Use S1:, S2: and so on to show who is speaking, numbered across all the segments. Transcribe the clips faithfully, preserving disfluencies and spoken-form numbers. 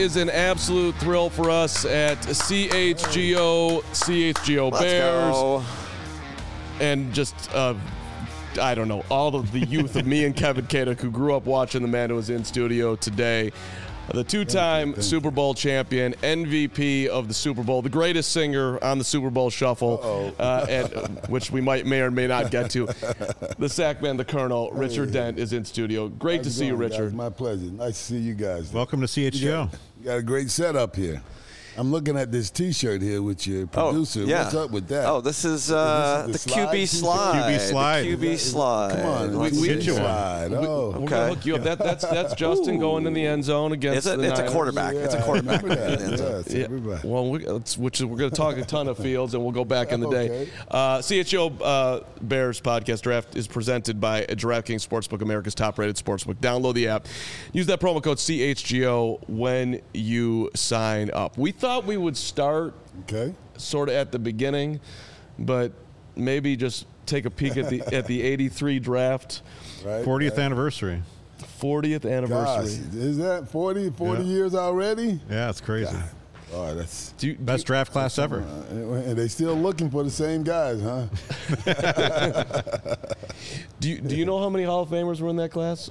S1: is an absolute thrill for us at C H G O, C H G O
S2: Let's
S1: Bears.
S2: go.
S1: And just, uh, I don't know, all of the youth of me and Kevin Kaduk who grew up watching the man who was in studio today. The two-time Super Bowl champion, M V P of the Super Bowl, the greatest singer on the Super Bowl Shuffle, uh, and, uh, which we might may or may not get to. The sack man, the Colonel, Richard hey. Dent, is in studio. Great
S3: How's
S1: to see
S3: going,
S1: you, Richard.
S3: Guys? My pleasure. Nice to see you guys.
S4: Welcome to C H G O.
S3: You got, you got a great setup here. I'm looking at this T-shirt here with your producer.
S2: Oh, yeah.
S3: What's up with that?
S2: Oh, this is uh,
S3: this is
S2: the,
S3: the
S2: Q B slide.
S4: Q B slide.
S2: The Q B slide.
S3: Come on,
S2: Let's
S3: we, we
S4: get you one.
S3: slide. Oh,
S1: We're
S2: Okay.
S1: gonna hook you up. That, that's that's Justin going in the end zone against
S2: Is it?
S1: the
S2: It's a
S1: Niners.
S2: quarterback.
S3: yeah,
S2: It's a quarterback.
S3: I remember that.
S2: Yeah.
S3: Yes,
S1: Yeah.
S3: everybody.
S1: Well, we, it's, which is, we're going to talk a ton of fields, and we'll go back in the day.
S3: Okay.
S1: Uh, C H G O uh, Bears podcast draft is presented by DraftKings Sportsbook, America's top-rated sportsbook. Download the app. Use that promo code C H G O when you sign up. We thought we would start
S3: Okay.
S1: sort of at the beginning, but maybe just take a peek at the at the eighty-three draft,
S3: Right.
S4: fortieth
S3: right.
S4: anniversary.
S1: fortieth
S3: Gosh,
S1: anniversary.
S3: is that forty, forty
S4: Yeah.
S3: years already?
S4: Yeah, it's crazy.
S3: Oh, that's.
S1: Do you, do
S4: Best draft class ever.
S3: Uh, and they still looking for the same guys, huh?
S1: do you, do you know how many Hall of Famers were in that class?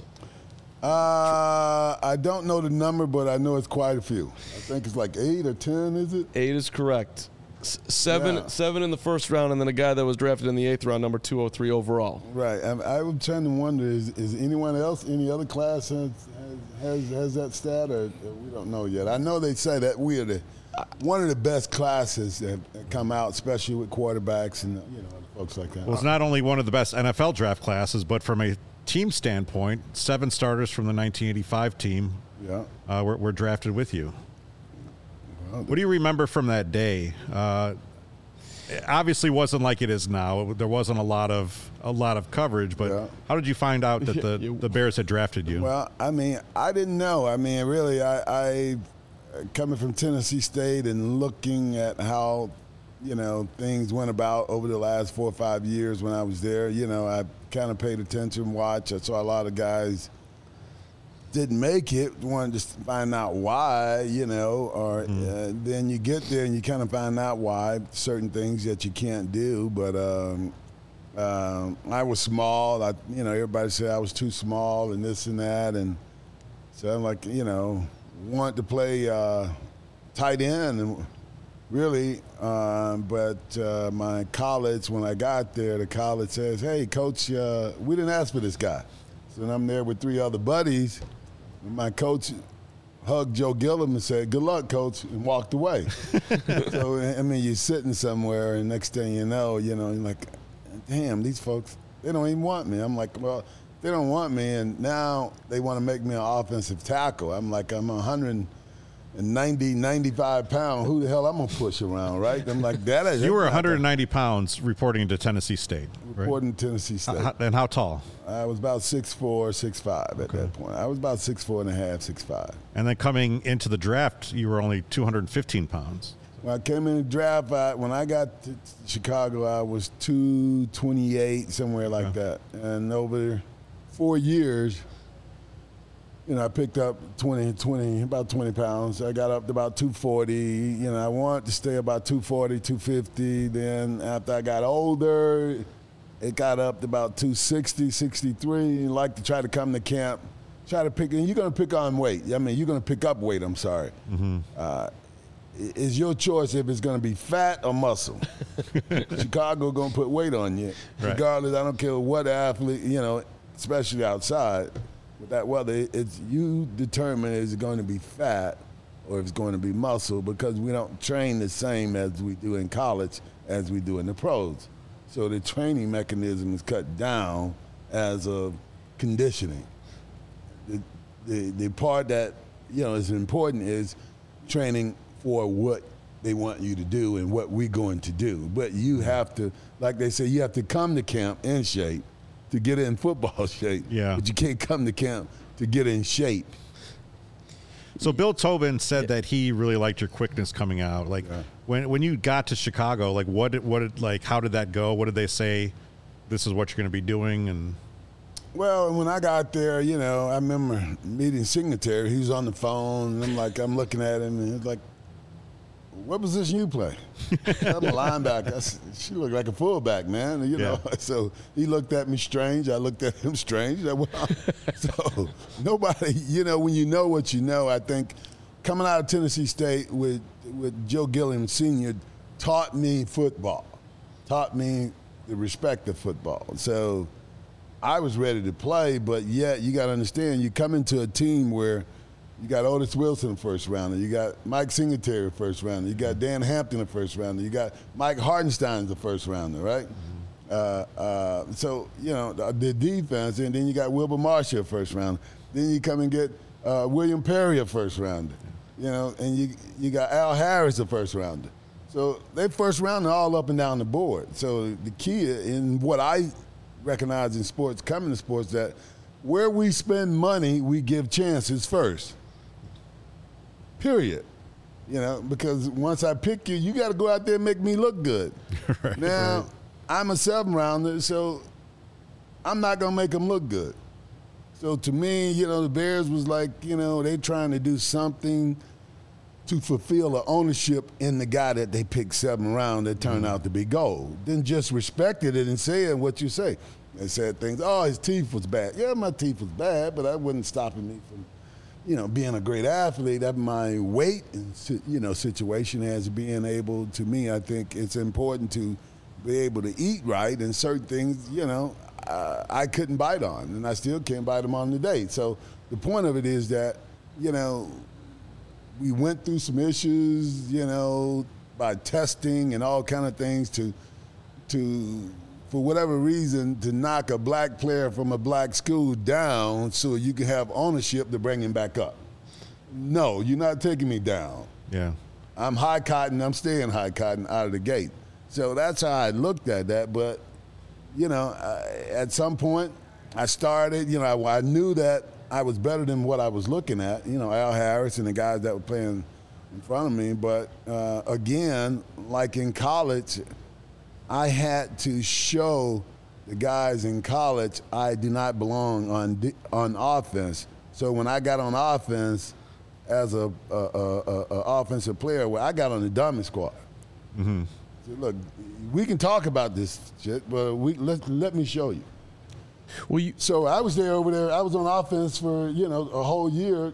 S3: Uh, I don't know the number, but I know it's quite a few. I think it's like eight or ten, is it?
S1: Eight is correct. S- seven,
S3: Yeah.
S1: seven in the first round, and then a guy that was drafted in the eighth round, number two oh three overall.
S3: Right. I, I was trying to wonder: is, is anyone else, any other class has has, has, has that stat, or, or we don't know yet? I know they say that we are the one of the best classes that that come out, especially with quarterbacks and you know folks like that.
S4: Well, it's not only one of the best N F L draft classes, but from a team standpoint, seven starters from the nineteen eighty-five team
S3: Yeah.
S4: uh, were, were drafted with you.
S3: Well,
S4: What do you remember from that day? Uh, it obviously wasn't like it is now. There wasn't a lot of a lot of coverage, but
S3: Yeah.
S4: how did you find out that the,
S1: You-
S4: the Bears had drafted you?
S3: Well, I mean, I didn't know. I mean, really, I, I coming from Tennessee State and looking at how, you know, things went about over the last four or five years when I was there. You know, I kind of paid attention, watched. I saw a lot of guys didn't make it, wanted to find out why, you know, or uh, then you get there and you kind of find out why certain things that you can't do. But um, um, I was small. I, you know, everybody said I was too small and this and that, and so I'm like, you know, wanted to play uh, tight end and really, um, but uh, my college, when I got there, the college says, "Hey, coach, uh, we didn't ask for this guy." So then I'm there with three other buddies. And my coach hugged Joe Gilliam and said, "Good luck, coach," and walked away. So, I mean, you're sitting somewhere, and next thing you know, you know, you're like, damn, these folks, they don't even want me. I'm like, well, they don't want me, and now they want to make me an offensive tackle. I'm like, I'm one hundred ninety, ninety-five pounds. Who the hell I'm going to push around, right? I'm like, that is.
S4: you were one hundred ninety pounds reporting to Tennessee State, right?
S3: Reporting to Tennessee State.
S4: Uh, and how tall?
S3: I was about six four, six five at
S4: Okay.
S3: that point. I was about six four and a half, six five.
S4: And then coming into the draft, you were only two hundred fifteen pounds.
S3: When I came in the draft, I, when I got to Chicago, I was two twenty-eight, somewhere like
S4: Okay.
S3: that. And over four years, you know, I picked up twenty, twenty, about twenty pounds. I got up to about two forty. You know, I wanted to stay about two forty, two fifty. Then after I got older, it got up to about two sixty, sixty-three. You like to try to come to camp, try to pick, and you're going to pick on weight. I mean, you're going to pick up weight, I'm sorry.
S4: Mm-hmm.
S3: Uh, it's your choice if it's going to be fat or muscle. Chicago going to put weight on you.
S4: Right.
S3: Regardless, I don't care what athlete, you know, especially outside. With that weather, it's you determine is it going to be fat or if it's going to be muscle, because we don't train the same as we do in college as we do in the pros. So the training mechanism is cut down as of conditioning. The, the, the part that, you know, is important is training for what they want you to do and what we're going to do. But you have to, like they say, you have to come to camp in shape to get in football shape.
S4: Yeah.
S3: But you can't come to camp to get in shape.
S4: So Bill Tobin said that he really liked your quickness coming out. Like
S3: Yeah.
S4: when when you got to Chicago, like what did, what did, like how did that go? What did they say? This is what you're going to be doing, and
S3: Well, when I got there, you know, I remember meeting Singletary. He was on the phone, and I'm like, I'm looking at him, and he's like, "What position you play?" I'm a linebacker. I said, "She looked like a fullback, man." You know,
S4: Yeah.
S3: so he looked at me strange. I looked at him strange. I went, so nobody, you know, when you know what you know, I think coming out of Tennessee State with with Joe Gilliam Senior taught me football, taught me the respect of football. So I was ready to play, but yet you got to understand, you come into a team where you got Otis Wilson first rounder, you got Mike Singletary first rounder, you got Dan Hampton the first rounder, you got Mike Hartenstein the first rounder, right? Mm-hmm. Uh, uh, so, you know, the, the defense, and then you got Wilbur Marshall first rounder. Then you come and get uh, William Perry a first rounder, you know, and you you got Al Harris a first rounder. So they first round all up and down the board. So the key in what I recognize in sports, coming to sports, that where we spend money, we give chances first. Period. You know, because once I pick you, you got to go out there and make me look good.
S4: Right,
S3: now,
S4: right.
S3: I'm a seven rounder, so I'm not going to make them look good. So to me, you know, the Bears was like, you know, they trying to do something to fulfill the ownership in the guy that they picked seven round that turned
S4: Mm-hmm.
S3: out to be gold. Then just respected it and said what you say. They said things, oh, his teeth was bad. Yeah, my teeth was bad, but that wasn't stopping me from, you know, being a great athlete. That my weight and, you know, situation as being able, to me, I think it's important to be able to eat right, and certain things, you know, uh, I couldn't bite on, and I still can't bite them on today. So the point of it is that, you know, we went through some issues, you know, by testing and all kind of things to, to, for whatever reason, to knock a black player from a black school down so you can have ownership to bring him back up. No, you're not taking me down.
S4: Yeah.
S3: I'm high cotton. I'm staying high cotton out of the gate. So that's how I looked at that. But, you know, I, at some point, I started, you know, I, I knew that I was better than what I was looking at, you know, Al Harris and the guys that were playing in front of me. But, uh, again, like in college, I had to show the guys in college I do not belong on on offense. So when I got on offense as a, a, a, a, a offensive player, well, I got on the dummy squad. Mm-hmm. So look, we can talk about this shit, but we let let me show you.
S1: Well, you,
S3: So I was there over there. I was on offense for, you know, a whole year,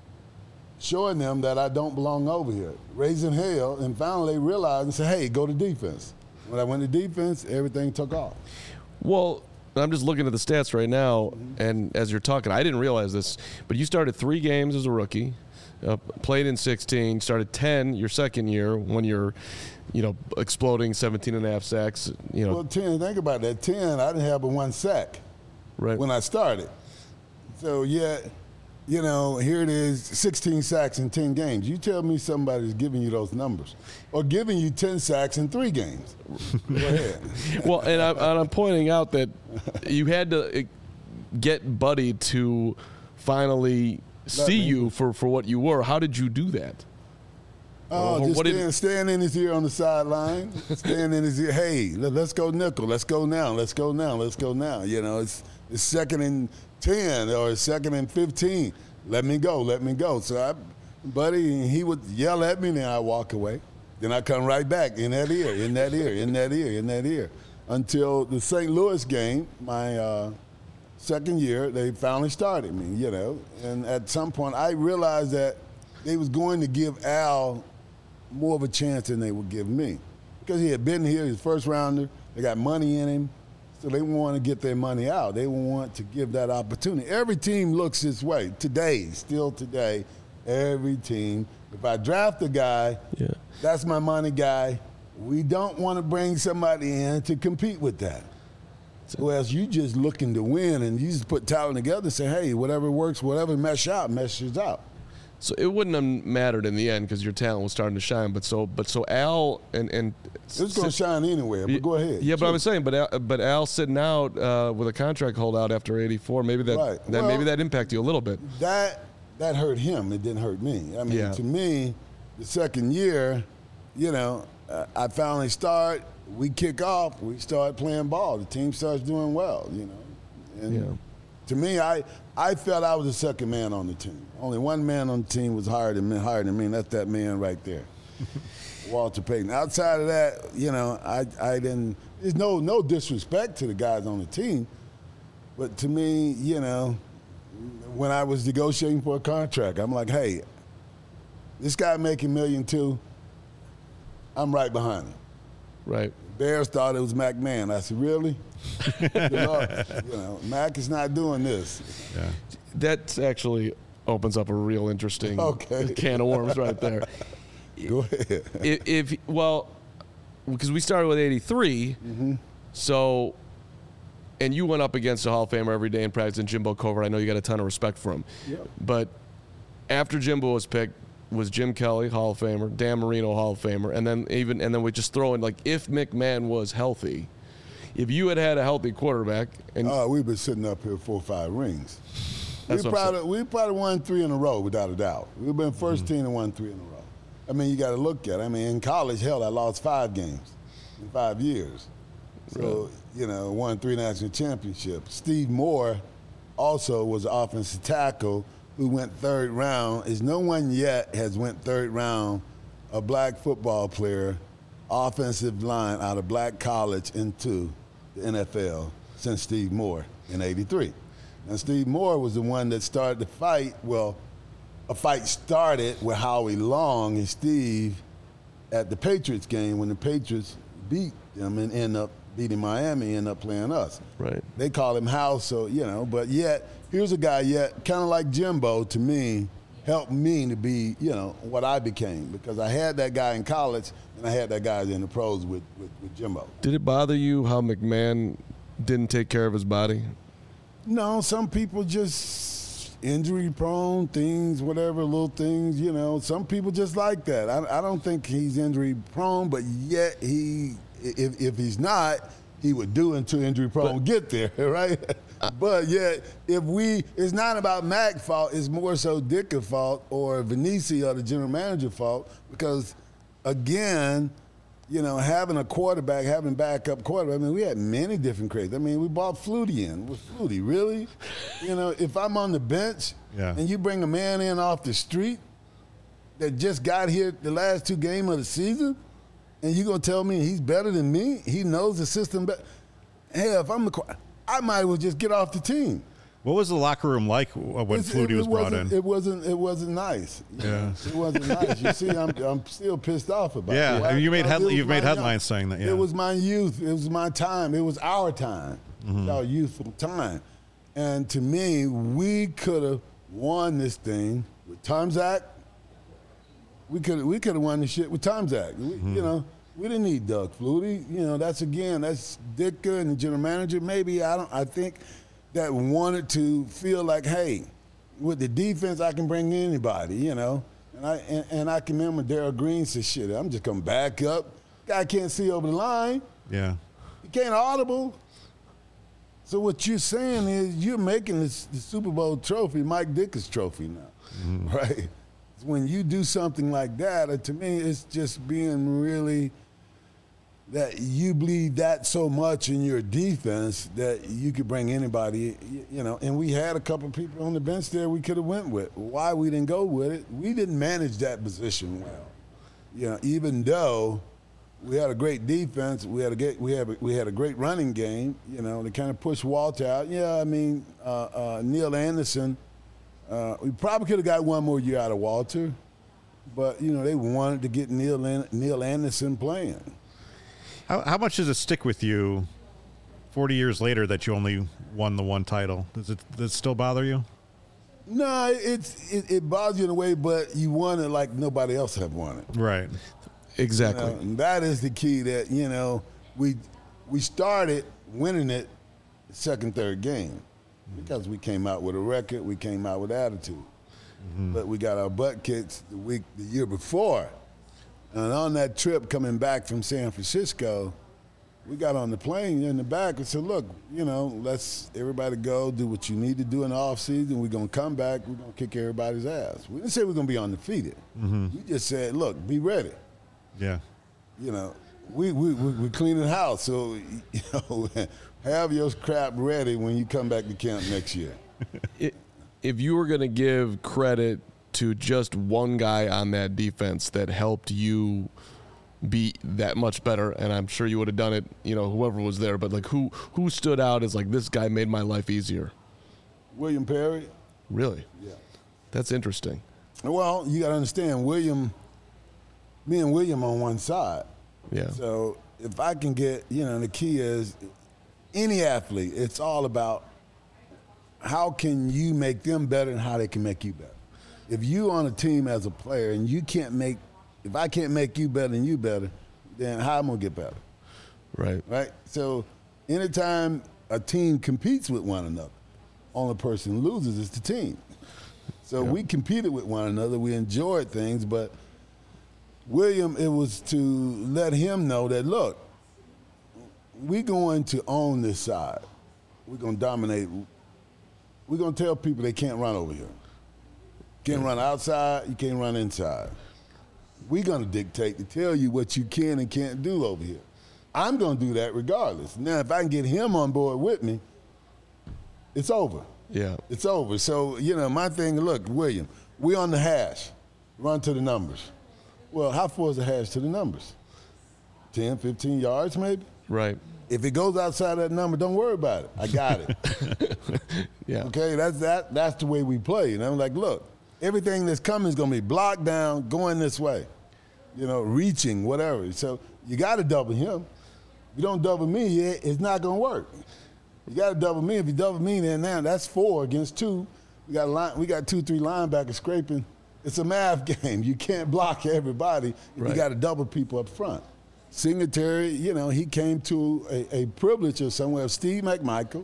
S3: showing them that I don't belong over here, raising hell, and finally they realized and said, hey, go to defense. When I went to defense, everything took off.
S1: well, I'm just looking at the stats right now, and as you're talking, I didn't realize this, but you started three games as a rookie, uh, played in sixteen, started ten your second year when you're, you know, exploding seventeen and a half sacks, you know.
S3: Well, ten, think about that. ten, I didn't have but one sack
S1: Right.
S3: when I started. So, yeah, you know, here it is, sixteen sacks in ten games. You tell me somebody's giving you those numbers, or giving you ten sacks in three games. Go ahead.
S1: Well, and, I, and I'm pointing out that you had to get Buddy to finally see
S3: me.
S1: you for, for what you were. How did you do that?
S3: Oh,
S1: Or
S3: just
S1: what did-
S3: stand, stand in his ear on the sideline. Stand in his ear. Hey, let, let's go nickel. Let's go now. Let's go now. Let's go now. You know, it's it's second and ten or it's second and fifteen. Let me go. Let me go. So I, buddy, he would yell at me, and then I walk away. Then I come right back in that ear, in that ear, in that ear, in that ear, until the Saint Louis game, my uh, second year, they finally started me. You know, and at some point I realized that they was going to give Al more of a chance than they would give me, because he had been here, he's first rounder, they got money in him, so they want to get their money out. They want to give that opportunity. Every team looks this way today, still today. Every team, if I draft a guy,
S1: Yeah.
S3: that's my money guy. We don't want to bring somebody in to compete with that. Whereas you just looking to win, and you just put talent together and say, hey, whatever works, whatever mesh out, meshes out.
S1: So it wouldn't have mattered in the end because your talent was starting to shine. But so, but so Al and and
S3: It was going to shine anywhere, but go ahead.
S1: Yeah, but I
S3: Sure.
S1: was saying, but Al, but Al sitting out uh, with a contract holdout after eighty-four, maybe that,
S3: Right.
S1: that
S3: Well-
S1: maybe that impacted you a little bit.
S3: that that hurt him. It didn't hurt me. I mean,
S1: Yeah.
S3: to me, the second year, you know, uh, I finally start. We kick off. We start playing ball. The team starts doing well. You know, and
S1: Yeah.
S3: To me, I I felt I was the second man on the team. Only one man on the team was higher than me, higher than me, and that's that man right there, Walter Payton. Outside of that, you know, I I didn't. There's no no disrespect to the guys on the team, but to me, you know, when I was negotiating for a contract, I'm like, hey, this guy making million two, I'm right behind him.
S1: Right.
S3: Bears thought it was Mac Mann. I said, really? Good Lord. You know, Mac is not doing this.
S4: Yeah.
S1: That actually opens up a real interesting
S3: Okay.
S1: can of worms right there.
S3: Go ahead.
S1: If, if well, because we started with eighty-three,
S3: Mm-hmm.
S1: so, and you went up against a Hall of Famer every day in practice, and Jimbo Covert. I know you got a ton of respect for him.
S3: Yep.
S1: But after Jimbo was picked, was Jim Kelly, Hall of Famer, Dan Marino, Hall of Famer, and then even and then we just throw in, like, if McMahon was healthy, if you had had a healthy quarterback, and
S3: Oh, we've been sitting up here four or five rings.
S1: That's
S3: we
S1: what I'm
S3: probably we probably won three in a row without a doubt. We've been 1st
S1: Mm-hmm.
S3: team and won three in a row. I mean, you got to look at it. I mean, in college, hell, I lost five games in five years. So, you know, won three national championships. Steve Moore also was an offensive tackle who went third round. Is no one yet has went third round, a black football player, offensive line out of black college into the N F L since Steve Moore in eighty-three. And Steve Moore was the one that started the fight. Well, a fight started with Howie Long and Steve at the Patriots game when the Patriots beat them and end up beating Miami, end up playing us.
S1: Right.
S3: They call him House, so, you know, but yet, here's a guy yet, kind of like Jimbo, to me, helped me to be, you know, what I became, because I had that guy in college and I had that guy in the pros with, with, with Jimbo.
S1: did it bother you how McMahon didn't take care of his body?
S3: No, some people just injury prone, things, whatever, little things, you know. Some people just like that. I, I don't think he's injury prone, but yet he, if, if he's not, he would do until injury prone
S1: But-
S3: get there, right? But yet, if we, it's not about Mac's fault, it's more so Dick's fault or Vinici or the general manager fault, because again, you know, having a quarterback, having backup quarterback, I mean, we had many different crazy. I mean, we bought Flutie in. Was Flutie, really? You know, if I'm on the bench
S4: Yeah.
S3: and you bring a man in off the street that just got here the last two games of the season, and you going to tell me he's better than me? He knows the system better. Hell, if I'm the qu- I might as well just get off the team.
S4: What was the locker room like when
S3: It's-
S4: Flutie
S3: it,
S4: was
S3: it
S4: brought
S3: wasn't,
S4: in?
S3: It wasn't. It wasn't nice. You
S4: Yeah.
S3: know, it wasn't nice. You see, I'm, I'm still pissed off about
S4: Yeah,
S3: it.
S4: I mean, you made
S3: Because
S4: head-
S3: it was
S4: you've made
S3: my
S4: headlines saying that, yeah.
S3: It was my youth. It was my time. It was our time. It was our youthful time. And to me, we could have won this thing with Tomzak. We could we could have won the shit with Tomzak. We, You know, we didn't need Doug Flutie. You know, that's again, that's Ditka and the general manager. Maybe I don't. I think that wanted to feel like, hey, with the defense, I can bring anybody. You know, and I and, and I can remember Darryl Green said, "Shit, I'm just gonna back up. Guy can't see over the line.
S4: Yeah.
S3: He can't audible." So what you're saying is you're making this, the Super Bowl trophy Mike Dick's trophy now, right? When you do something like that, uh, to me, it's just being really that you believe that so much in your defense that you could bring anybody, you, you know. And we had a couple of people on the bench there we could have went with. Why we didn't go with it? We didn't manage that position well. You know, even though we had a great defense, we had a great, we had a, we had a great running game. You know, to kind of push Walter out. Yeah, I mean, uh, uh, Neil Anderson. Uh, we probably could have got one more year out of Walter, but you know they wanted to get Neil An- Neil Anderson playing.
S4: How, how much does it stick with you forty years later that you only won the one title? Does it, does it still bother you?
S3: No, it's it, it bothers you in a way, but you won it like nobody else have won it.
S4: Right.
S1: Exactly.
S3: You know, and that is the key. That you know we we started winning it the second, third game because we came out with a record, we came out with attitude. Mm-hmm. But we got our butt kicked the week the year before, and on that trip coming back from San Francisco, we got on the plane in the back and said, "Look, you know, let's everybody go do what you need to do in the off season. We're gonna come back. We're gonna kick everybody's ass." We didn't say we're gonna be undefeated.
S4: Mm-hmm.
S3: We just said, "Look, be ready."
S4: Yeah.
S3: You know, we we we we cleaning the house, so you know, have your crap ready when you come back to camp next year.
S1: It, if you were going to give credit to just one guy on that defense that helped you be that much better, and I'm sure you would have done it, you know, whoever was there, but like who who stood out as like, this guy made my life easier?
S3: William Perry.
S1: Really?
S3: Yeah.
S1: That's interesting.
S3: Well, you got to understand, William, me and William on one side.
S1: Yeah.
S3: So if I can get, you know, the key is any athlete, it's all about how can you make them better and how they can make you better. If you on a team as a player and you can't make, if I can't make you better and you better, then how am I going to get better?
S1: Right.
S3: Right? So anytime a team competes with one another, only person loses is the team. So
S1: Yeah.
S3: we competed with one another. We enjoyed things, but William, it was to let him know that, look, we're going to own this side. We're going to dominate. We're going to tell people they can't run over here. Can't run outside, you can't run inside. We're going to dictate to tell you what you can and can't do over here. I'm going to do that regardless. Now, if I can get him on board with me, it's over.
S1: Yeah.
S3: It's over. So, you know, my thing, look, William, we on the hash. Run to the numbers. Well, how far is the hash to the numbers? ten, fifteen yards maybe?
S1: Right.
S3: If it goes outside that number, don't worry about it. I got it.
S1: Yeah.
S3: Okay, that's that. That's the way we play. And I'm like, look, everything that's coming is going to be blocked down, going this way. You know, reaching, whatever. So you got to double him. If you don't double me, it's not going to work. You got to double me. If you double me, then now that's four against two. We got a line, we got two, three linebackers scraping. It's a math game. You can't block everybody.
S1: Right.
S3: You got to double people up front. Singletary, you know, he came to a, a privilege of somewhere of Steve McMichael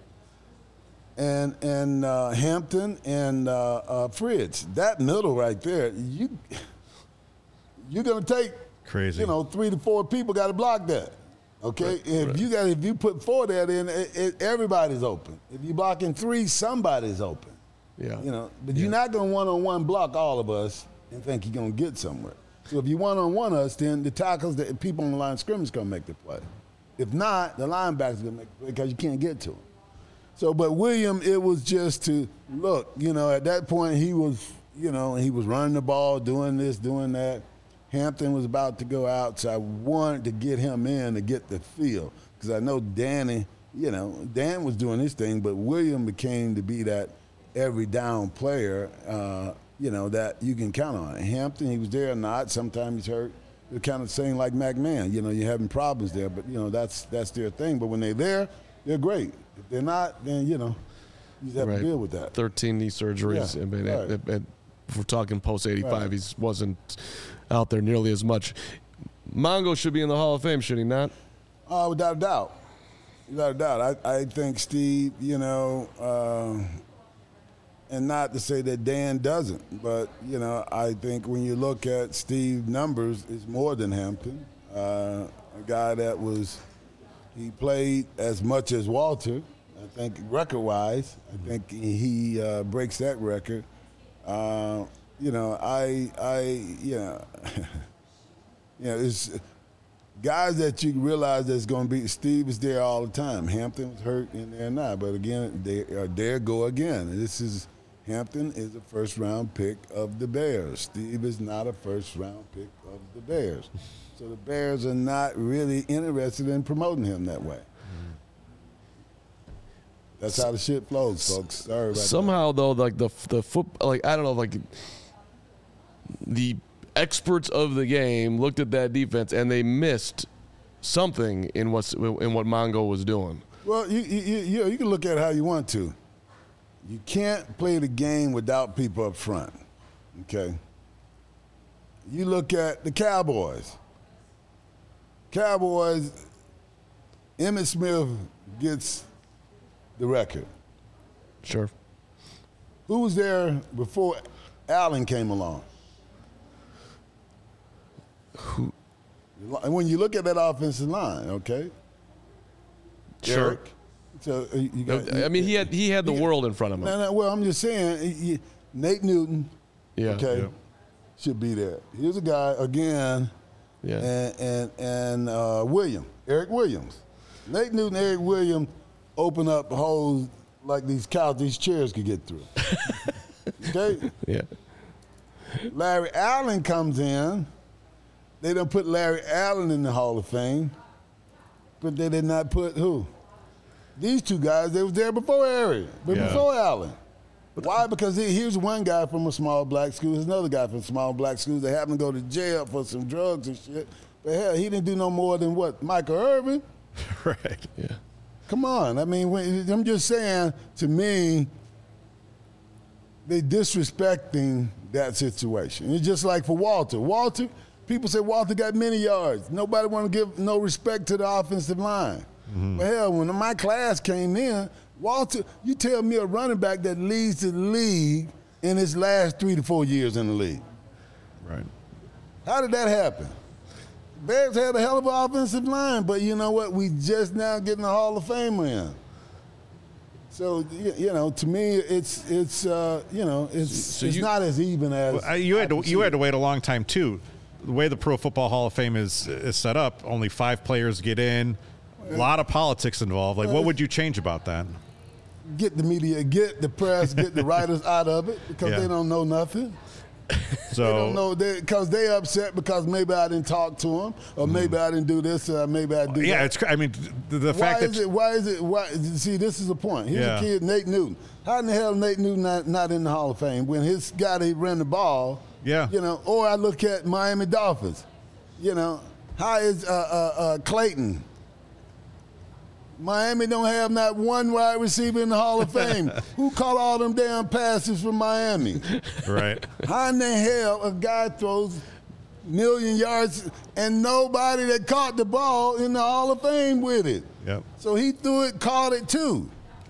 S3: and and uh, Hampton and uh, uh, Fritz. That middle right there, you you're gonna take
S4: Crazy.
S3: You know, three to four people got to block that. Okay,
S1: Right,
S3: if
S1: right.
S3: you got if you put four there, then it, it, everybody's open. If you're blocking three, somebody's open.
S1: Yeah.
S3: You know, but
S1: Yeah.
S3: you're not gonna one-on-one block all of us and think you're gonna get somewhere. So if you one-on-one us, then the tackles, the people on the line of scrimmage gonna make the play. If not, the linebackers gonna make the play because you can't get to them. So, but William, it was just to look. You know, at that point he was, you know, he was running the ball, doing this, doing that. Hampton was about to go out, so I wanted to get him in to get the feel because I know Danny, you know, Dan was doing his thing, but William became to be that every down player, uh, you know, that you can count on. Hampton, he was there or not. Sometimes he's hurt. They're kind of saying like McMahon, you know, you're having problems there, but, you know, that's that's their thing. But when they're there, they're great. If they're not, then, you know, you just have
S1: Right.
S3: to deal with that.
S1: thirteen knee surgeries.
S3: Yeah,
S1: I mean,
S3: right.
S1: at- at- if we're talking post eighty-five,
S3: Right.
S1: he wasn't out there nearly as much. Mongo should be in the Hall of Fame, should he not?
S3: Uh, without a doubt. Without a doubt. I, I think Steve, you know, uh, and not to say that Dan doesn't, but, you know, I think when you look at Steve's numbers, it's more than Hampton. Uh, a guy that was, he played as much as Walter, I think record-wise. I think he uh, breaks that record. Uh, you know, I, I, you know, you know, it's guys that you realize that's going to be. Steve is there all the time. Hampton was hurt and they're not, but again, they are there. Go again. This is Hampton is a first round pick of the Bears. Steve is not a first round pick of the Bears, so the Bears are not really interested in promoting him that way. That's how the shit flows, folks. Sorry about that.
S1: Somehow, though, like the the foot, like I don't know, like the experts of the game looked at that defense and they missed something in what's in what Mongo was doing.
S3: Well, you you you, you, know, you can look at it how you want to. You can't play the game without people up front. Okay. You look at the Cowboys. Cowboys. Emmitt Smith gets the record.
S1: Sure.
S3: Who was there before Allen came along?
S1: Who?
S3: And when you look at that offensive line, okay.
S1: Sure.
S3: Eric. So uh, you got,
S1: I mean, he had he had the
S3: you-
S1: world in front of him.
S3: No, no, well, I'm just saying, you- Nate Newton,
S1: Yeah.
S3: okay,
S4: Yep.
S3: should be there. Here's a guy, again,
S1: Yeah.
S3: and and, and uh, Williams, Eric Williams. Nate Newton, Eric Williams open up holes like these couch, these chairs could get through. Okay?
S1: Yeah.
S3: Larry Allen comes in. They don't put Larry Allen in the Hall of Fame, but they did not put who? These two guys, they was there before Eric, but
S1: Yeah.
S3: before Allen. Why? Because he- here's one guy from a small black school, here's another guy from a small black school that happened to go to jail for some drugs and shit. But hell, he didn't do no more than what? Michael Irvin?
S4: Right.
S1: Yeah.
S3: Come on. I mean, when, I'm just saying, to me, they disrespecting that situation. It's just like for Walter. Walter, people say Walter got many yards. Nobody want to give no respect to the offensive line. Mm-hmm. But hell, when my class came in, Walter, you tell me a running back that leads the league in his last three to four years in the league.
S4: Right.
S3: How did that happen? Bears had a hell of an offensive line, but you know what? We just now getting the Hall of Famer in. So you know, to me, it's it's uh, you know, it's
S1: So
S3: it's
S1: you-
S3: not as even as
S4: Well, uh, you had
S3: I
S4: to
S3: can
S4: you
S3: see
S4: had to
S3: it.
S4: wait a long time too. The way the Pro Football Hall of Fame is is set up, only five players get in. A lot of politics involved. Like, what would you change about that?
S3: Get the media, get the press, get the writers out of it because
S4: Yeah.
S3: they don't know nothing.
S4: So
S3: They don't know because they upset because maybe I didn't talk to them or maybe I didn't do this or maybe I do
S4: yeah,
S3: that.
S4: it's. cr- I mean, the, the
S3: Why
S4: fact
S3: is
S4: that
S3: it? Why is it? Why? See, this is the point. Here's
S4: Yeah.
S3: a kid, Nate Newton. How in the hell Nate Newton not, not in the Hall of Fame when his guy that ran the ball?
S4: Yeah.
S3: You know. Or I look at Miami Dolphins. You know, how is uh, uh, uh, Clayton? Miami don't have not one wide receiver in the Hall of Fame. Who caught all them damn passes from Miami?
S4: right.
S3: How in the hell a guy throws million yards and nobody that caught the ball in the Hall of Fame with it?
S4: Yep.
S3: So he threw it, caught it too.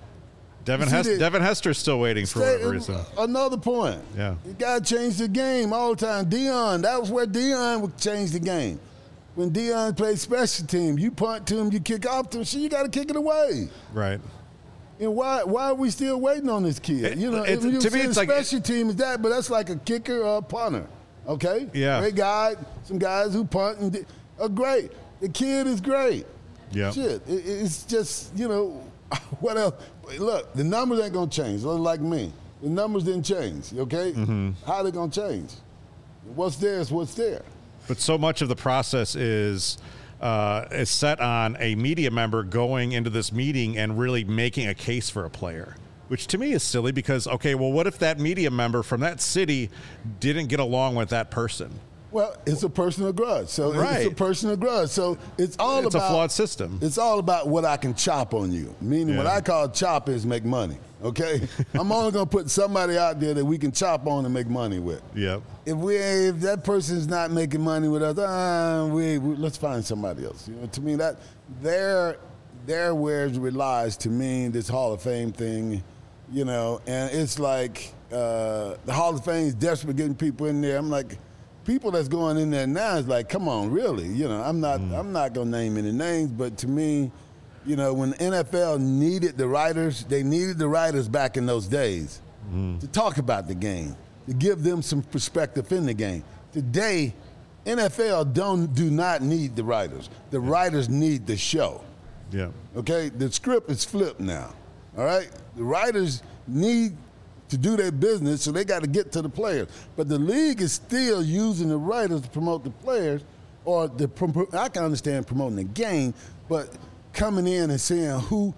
S4: Devin
S3: You see
S4: Hester,
S3: the-
S4: Devin Hester's still waiting for
S3: Stay-
S4: whatever reason.
S3: Another point.
S4: Yeah.
S3: You got to change the game all the time. Dion, that was where Dion would change the game. When Dion played special team, you punt to him, you kick off to him, shit, you got to kick it away.
S4: Right.
S3: And why why are we still waiting on this kid?
S4: It-
S3: you know,
S4: it's-
S3: if you
S4: to me,
S3: say
S4: it's like-
S3: special team is that, but that's like a kicker or a punter. Okay?
S4: Yeah.
S3: Great guy, some guys who punt and di- are great. The kid is great.
S4: Yeah.
S3: Shit, it, it's just, you know, what else? Look, the numbers ain't gonna change. Like me, the numbers didn't change. Okay,
S4: Mm-hmm.
S3: how they gonna change? What's there is what's there.
S4: But so much of the process is uh, is set on a media member going into this meeting and really making a case for a player, which to me is silly because, okay, well, what if that media member from that city didn't get along with that person?
S3: Well, it's a personal grudge. So it's a
S4: Right.
S3: personal grudge. So it's all
S4: It's
S3: about
S4: a flawed system.
S3: It's all about what I can chop on you. Meaning, what
S4: Yeah.
S3: I call chop is make money. Okay, I'm only gonna put somebody out there that we can chop on and make money with.
S4: Yep.
S3: If we if that person's not making money with us, uh, we, we let's find somebody else. You know, to me that there there where it relies to me this Hall of Fame thing, you know, and it's like uh, the Hall of Fame is desperate getting people in there. I'm like, people that's going in there now is like, come on, really? You know, I'm not I'm not gonna name any names, but to me, you know, when the N F L needed the writers, they needed the writers back in those days to talk about the game, to give them some perspective in the game. Today, N F L don't do not need the writers. The writers need the show.
S4: Yeah.
S3: Okay, the script is flipped now. All right, the writers need to do their business, so they got to get to the players. But the league is still using the writers to promote the players, or the prom- I can understand promoting the game, but coming in and saying who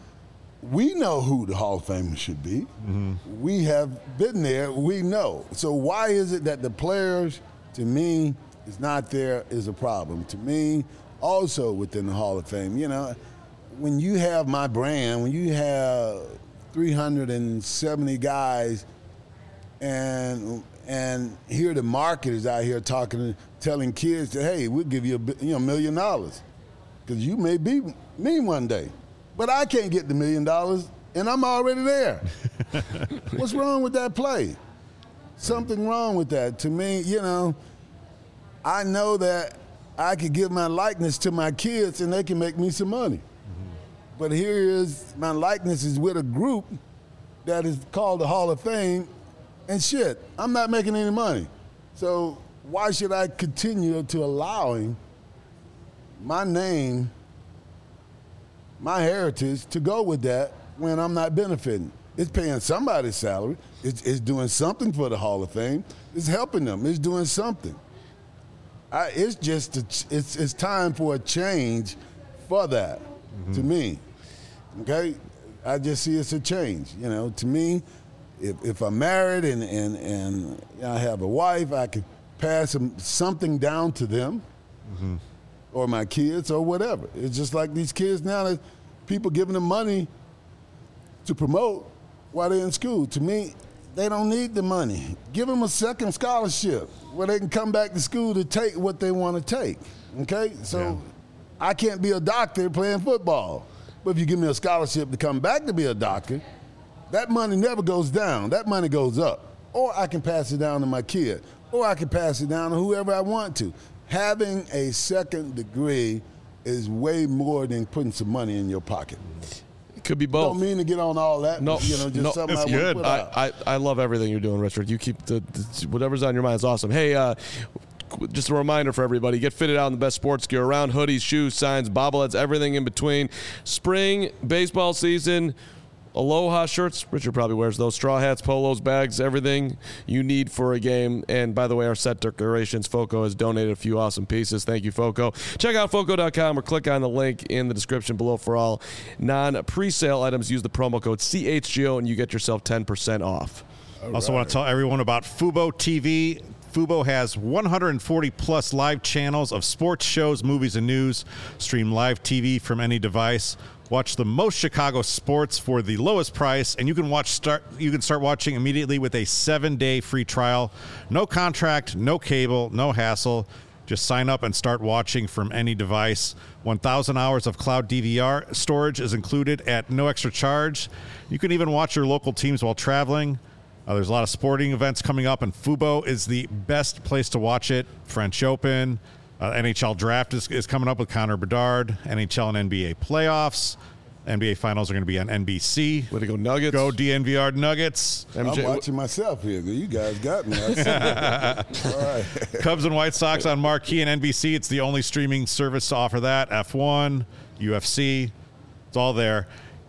S3: we know who the Hall of Famers should be. Mm-hmm. We have been there. We know. So why is it that the players, to me, is not there is a problem. To me, also within the Hall of Fame, you know, when you have my brand, when you have three hundred seventy guys, and and here the marketers out here talking, telling kids that, hey, we'll give you a bi- you know million dollars because you may be me one day, but I can't get the million dollars and I'm already there. What's wrong with that play? Something wrong with that. To me, you know, I know that I could give my likeness to my kids and they can make me some money. But here is my likeness is with a group that is called the Hall of Fame, and shit, I'm not making any money. So why should I continue to allowing my name, my heritage to go with that when I'm not benefiting. It's paying somebody's salary. It's, it's doing something for the Hall of Fame. It's helping them. It's doing something. I, it's just a, it's it's time for a change for that. Mm-hmm. To me, okay. I just see it's a change. You know, to me, if if I'm married and and and I have a wife, I can pass some, something down to them, mm-hmm. or my kids or whatever. It's just like these kids now. That people giving them money to promote while they're in school. To me, they don't need the money. Give them a second scholarship where they can come back to school to take what they want to take, okay? So yeah. I can't be a doctor playing football. But if you give me a scholarship to come back to be a doctor, that money never goes down. That money goes up. Or I can pass it down to my kid. Or I can pass it down to whoever I want to. Having a second degree is way more than putting some money in your pocket.
S1: Could be both.
S3: Don't mean to get on all that.
S1: No,
S3: you know, just
S1: no,
S3: something
S4: it's
S3: I
S4: good.
S3: Put out.
S1: I, I, I love everything you're doing, Richard. You keep the, the whatever's on your mind is awesome. Hey, uh, just a reminder for everybody, get fitted out in the best sports gear around, hoodies, shoes, signs, bobbleheads, everything in between. Spring baseball season, Aloha shirts. Richard probably wears those. Straw hats, polos, bags, everything you need for a game. And by the way, our set decorations, FOCO has donated a few awesome pieces. Thank you, FOCO. Check out foco dot com or click on the link in the description below for all non-presale items. Use the promo code C H G O and you get yourself ten percent off.
S4: All also right. Want to tell everyone about Fubo T V. Fubo has one hundred forty plus live channels of sports shows, movies, and news. Stream live T V from any device. Watch the most Chicago sports for the lowest price, and you can watch start. You can start watching immediately with a seven-day free trial. No contract, no cable, no hassle. Just sign up and start watching from any device. one thousand hours of cloud D V R storage is included at no extra charge. You can even watch your local teams while traveling. Uh, there's a lot of sporting events coming up, and Fubo is the best place to watch it. French Open. Uh, N H L Draft is, is coming up with Connor Bedard. N H L and N B A playoffs. N B A finals are going to be on N B C.
S1: Way to go, Nuggets.
S4: Go D N V R Nuggets.
S3: I'm M J, watching myself here. You guys got me. I see All right.
S4: Cubs and White Sox on Marquee and N B C. It's the only streaming service to offer that. F one, U F C. It's all there.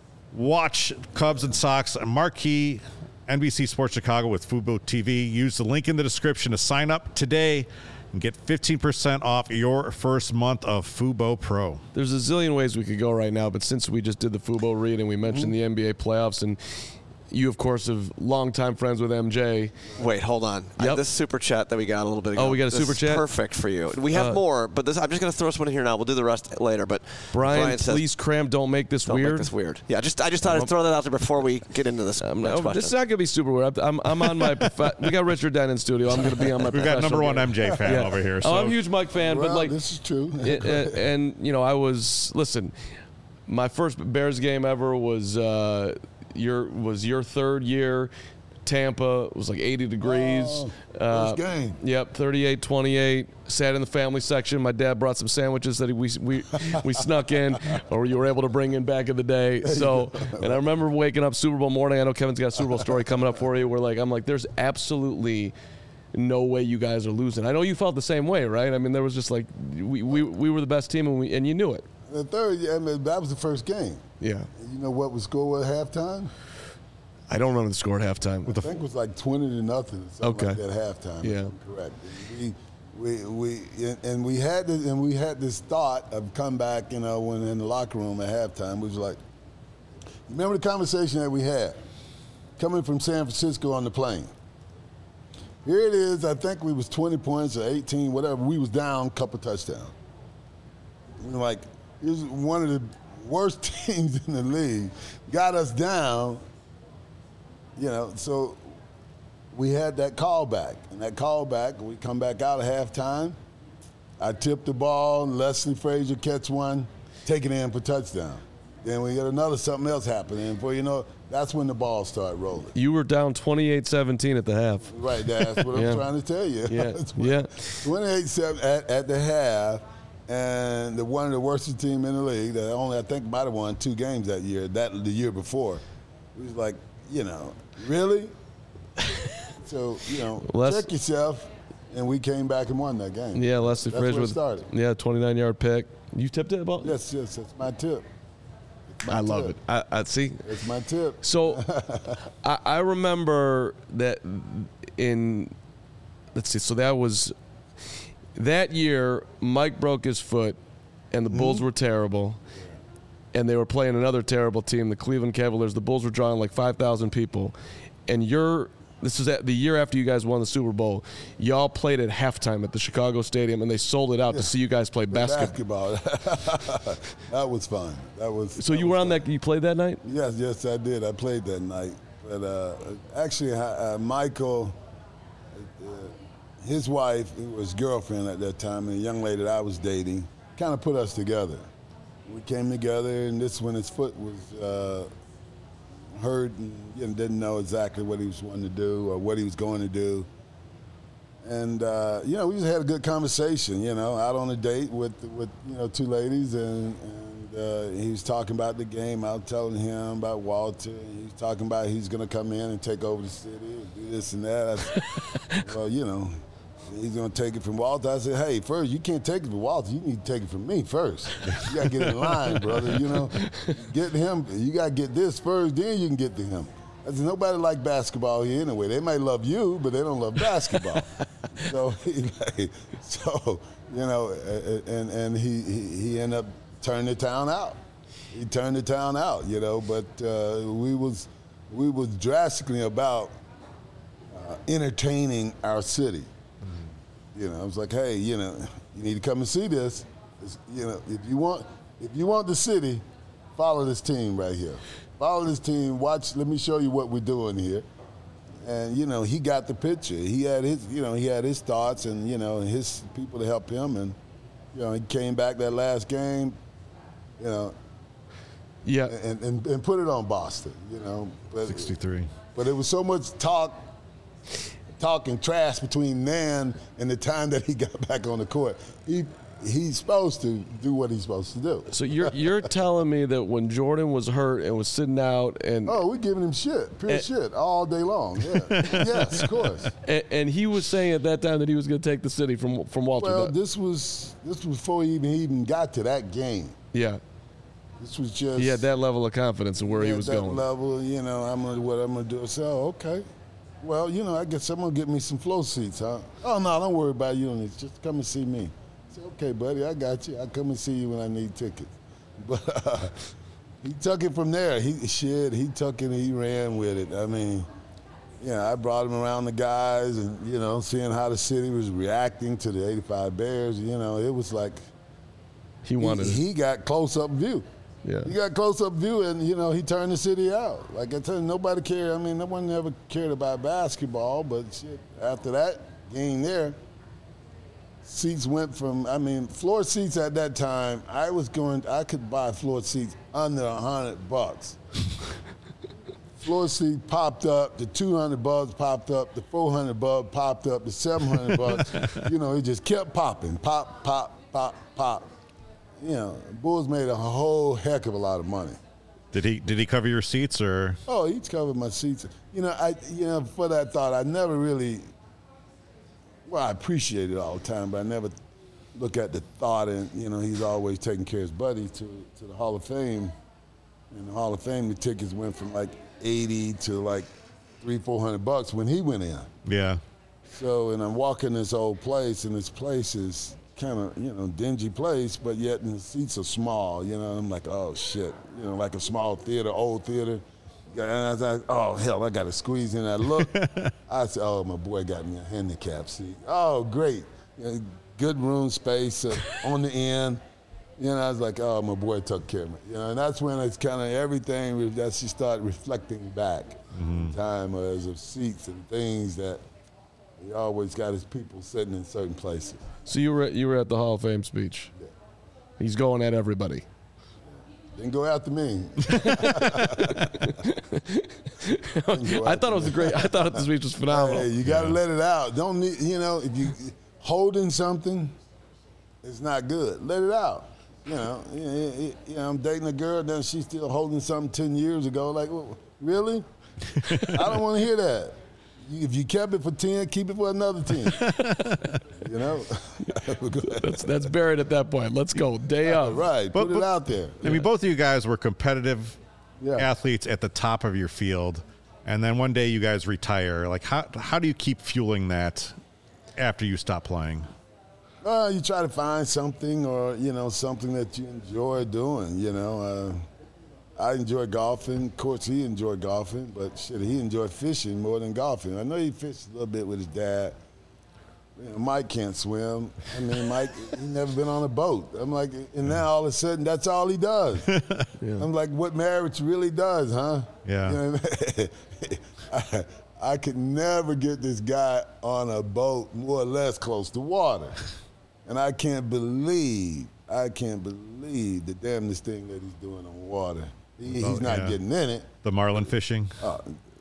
S4: Watch Cubs and Sox on Marquee, N B C Sports Chicago with Fubo T V. Use the link in the description to sign up today and get fifteen percent off your first month of Fubo Pro.
S1: There's a zillion ways we could go right now, but since we just did the Fubo read and we mentioned mm-hmm. the N B A playoffs, and you, of course, have longtime friends with M J.
S2: Wait, hold on.
S1: Yep.
S2: I, this super chat that we got a little bit ago.
S1: Oh, we got a
S2: this
S1: super
S2: is
S1: chat?
S2: Perfect for you. We have uh, more, but this, I'm just going to throw someone in here now. We'll do the rest later. But
S1: Brian,
S2: Brian says,
S1: please cram. Don't make this
S2: don't
S1: weird.
S2: Don't make this weird. Yeah, just I just thought I'd throw that out there before we get into this.
S1: Um, no, this is not going to be super weird. I'm, I'm on my. Prof- we got Richard Den in studio. I'm going to be on my.
S4: We've got number one M J fan
S1: yeah.
S4: over here. So.
S1: Oh, I'm a huge Mike fan,
S3: well,
S1: but like
S3: this is true.
S1: it, it, and you know, I was listen. My first Bears game ever was uh, your was your third year. Tampa. It was like eighty degrees.
S3: Oh,
S1: uh,
S3: first game.
S1: Yep, thirty-eight twenty-eight. Sat in the family section. My dad brought some sandwiches that we we we snuck in, or you were able to bring in back in the day. So, and I remember waking up Super Bowl morning. I know Kevin's got a Super Bowl story coming up for you. We're like, I'm like, there's absolutely no way you guys are losing. I know you felt the same way, right? I mean, there was just like we we, we were the best team, and we and you knew it.
S3: The third, I mean, that was the first game.
S1: Yeah.
S3: You know what was score at halftime?
S1: I don't remember the score at halftime.
S3: I think it was like twenty to nothing. Or something
S1: okay.
S3: Like that at halftime.
S1: Yeah.
S3: If I'm correct. And we, we, we, and we had this, and we had this thought of come back. You know, when in the locker room at halftime, we was like, remember the conversation that we had coming from San Francisco on the plane. Here it is. I think we was twenty points or eighteen, whatever. We was down, a couple touchdowns. You know, like it was one of the worst teams in the league. Got us down. You know, so we had that call back. And that call back, we come back out at halftime. I tip the ball, Leslie Frazier catch one, take it in for touchdown. Then we get another something else happening. And before you know, that's when the ball started rolling.
S1: You were down twenty-eight seventeen at the half.
S3: Right, that's what
S1: yeah.
S3: I'm trying to tell you.
S1: Yeah, yeah.
S3: twenty-eight seven at, at the half, and the one of the worst team in the league that only, I think, might have won two games that year, that the year before. It was like, you know, really? So, you know, Les- check yourself, and we came back and won that game.
S1: Yeah, Leslie
S3: That's
S1: Frazier
S3: where it
S1: with
S3: started.
S1: Yeah, twenty-nine yard pick. You tipped it about?
S3: Yes, yes, that's my tip. My
S1: I love
S3: tip.
S1: it. I, I see.
S3: It's my tip.
S1: So I, I remember that in, let's see, so that was, that year, Mike broke his foot, and the Bulls mm-hmm. were terrible, and they were playing another terrible team, the Cleveland Cavaliers. The Bulls were drawing like five thousand people, and you're, this is at the year after you guys won the Super Bowl. Y'all played at halftime at the Chicago Stadium, and they sold it out yeah. to see you guys play basketball.
S3: basketball. That was fun. That was.
S1: So
S3: that
S1: you
S3: was
S1: were on
S3: fun.
S1: that. You played that night?
S3: Yes, yes, I did. I played that night. But uh, actually, uh, Michael, uh, his wife, who was girlfriend at that time, and a young lady that I was dating, kind of put us together. We came together, and this when his foot was. Uh, hurt and you know, didn't know exactly what he was wanting to do or what he was going to do. And, uh, you know, we just had a good conversation, you know, out on a date with, with you know, two ladies. And, and uh, he was talking about the game. I was telling him about Walter. And he was talking about he's going to come in and take over the city and do this and that. I said, well, you know, he's going to take it from Walter. I said, hey, first, you can't take it from Walter. You need to take it from me first. You got to get in line, brother, you know. Get him. You got to get this first, then you can get to him. I said, nobody like basketball here anyway. They might love you, but they don't love basketball. so, he, like, so, you know, and, and he, he, he ended up turning the town out. He turned the town out, you know, but uh, we was we was drastically about uh, entertaining our city. You know, I was like, hey, you know, you need to come and see this. It's, you know, if you want, if you want the city, follow this team right here. Follow this team. Watch. Let me show you what we're doing here. And you know, he got the picture. He had his, you know, he had his thoughts, and you know, his people to help him. And you know, he came back that last game. You know.
S1: Yeah.
S3: And and, and put it on Boston. You know. But,
S4: sixty-three.
S3: But it was so much talk. Talking trash between then and the time that he got back on the court. He he's supposed to do what he's supposed to do.
S1: So you're you're telling me that when Jordan was hurt and was sitting out and
S3: oh, we're giving him shit, pure and, shit, all day long. Yeah, yes, of course.
S1: And, and he was saying at that time that he was going to take the city from from Walter.
S3: Well, this was this was before he even he even got to that game.
S1: Yeah.
S3: This was just
S1: he had that level of confidence in where he,
S3: he
S1: was
S3: that
S1: going.
S3: Level, you know, I'm gonna what I'm gonna do. So okay. Well, you know, I guess I'm going to get me some flow seats, huh? Oh, no, don't worry about you. Just come and see me. I said, okay, buddy, I got you. I'll come and see you when I need tickets. But uh, he took it from there. He shit, he took it and he ran with it. I mean, yeah, I brought him around the guys and, you know, seeing how the city was reacting to the eighty-five Bears. You know, it was like
S1: he wanted
S3: he,
S1: it.
S3: He got close-up view.
S1: Yeah.
S3: He got close-up view, and, you know, he turned the city out. Like I tell you, nobody cared. I mean, no one ever cared about basketball, but shit, after that game there, seats went from, I mean, floor seats at that time, I was going, I could buy floor seats under a hundred bucks. Floor seat popped up, the two hundred bucks popped up, the four hundred bucks popped up, the seven hundred bucks. You know, it just kept popping, pop, pop, pop, pop. You know, Bulls made a whole heck of a lot of money.
S4: Did he did he cover your seats or?
S3: Oh, he's covered my seats. You know, I you know for that thought, I never really. Well, I appreciate it all the time, but I never look at the thought. And you know, he's always taking care of his buddy to to the Hall of Fame. And the Hall of Fame, the tickets went from like eighty to like three, four hundred bucks when he went in.
S4: Yeah.
S3: So, and I'm walking this old place, and this place is kind of, you know, dingy place, but yet the seats are small, you know. I'm like, oh, shit, you know, like a small theater, old theater. And I was like, oh, hell, I got to squeeze in. I look, I said, oh, my boy got me a handicap seat. Oh, great. You know, good room space uh, on the end. You know, I was like, oh, my boy took care of me. You know, and that's when it's kind of everything, that's you start reflecting back. Mm-hmm. Time as of seats and things that he always got his people sitting in certain places.
S1: So you were at, you were at the Hall of Fame speech.
S3: Yeah.
S1: He's going at everybody.
S3: Didn't go after me.
S1: I thought it was a great. I thought the speech was phenomenal.
S3: Hey, you got to yeah. let it out. Don't need, you know, if you holding something, it's not good. Let it out. You know, you know, I'm dating a girl, then she's still holding something ten years ago. Like, well, really? I don't want to hear that. if you kept it for ten, keep it for another ten. You know?
S1: that's, that's buried at that point. Let's go. Day of.
S3: Right. Put
S4: But-
S3: it
S4: but-
S3: out there.
S4: I mean, both of you guys were competitive
S3: Yeah.
S4: athletes at the top of your field, and then one day you guys retire. Like, how how do you keep fueling that after you stop playing?
S3: Uh, you try to find something or, you know, something that you enjoy doing, you know. Uh, I enjoy golfing. Of course, he enjoyed golfing, but shit, he enjoyed fishing more than golfing. I know he fished a little bit with his dad. You know, Mike can't swim. I mean, Mike, he never been on a boat. I'm like, and now all of a sudden, that's all he does. Yeah. I'm like, what marriage really does, huh?
S4: Yeah.
S3: You know what I mean? I, I could never get this guy on a boat more or less close to water. And I can't believe, I can't believe the damnedest thing that he's doing on water. He, he's
S4: Oh,
S3: not
S4: yeah.
S3: getting in it.
S4: The marlin fishing?
S3: Uh,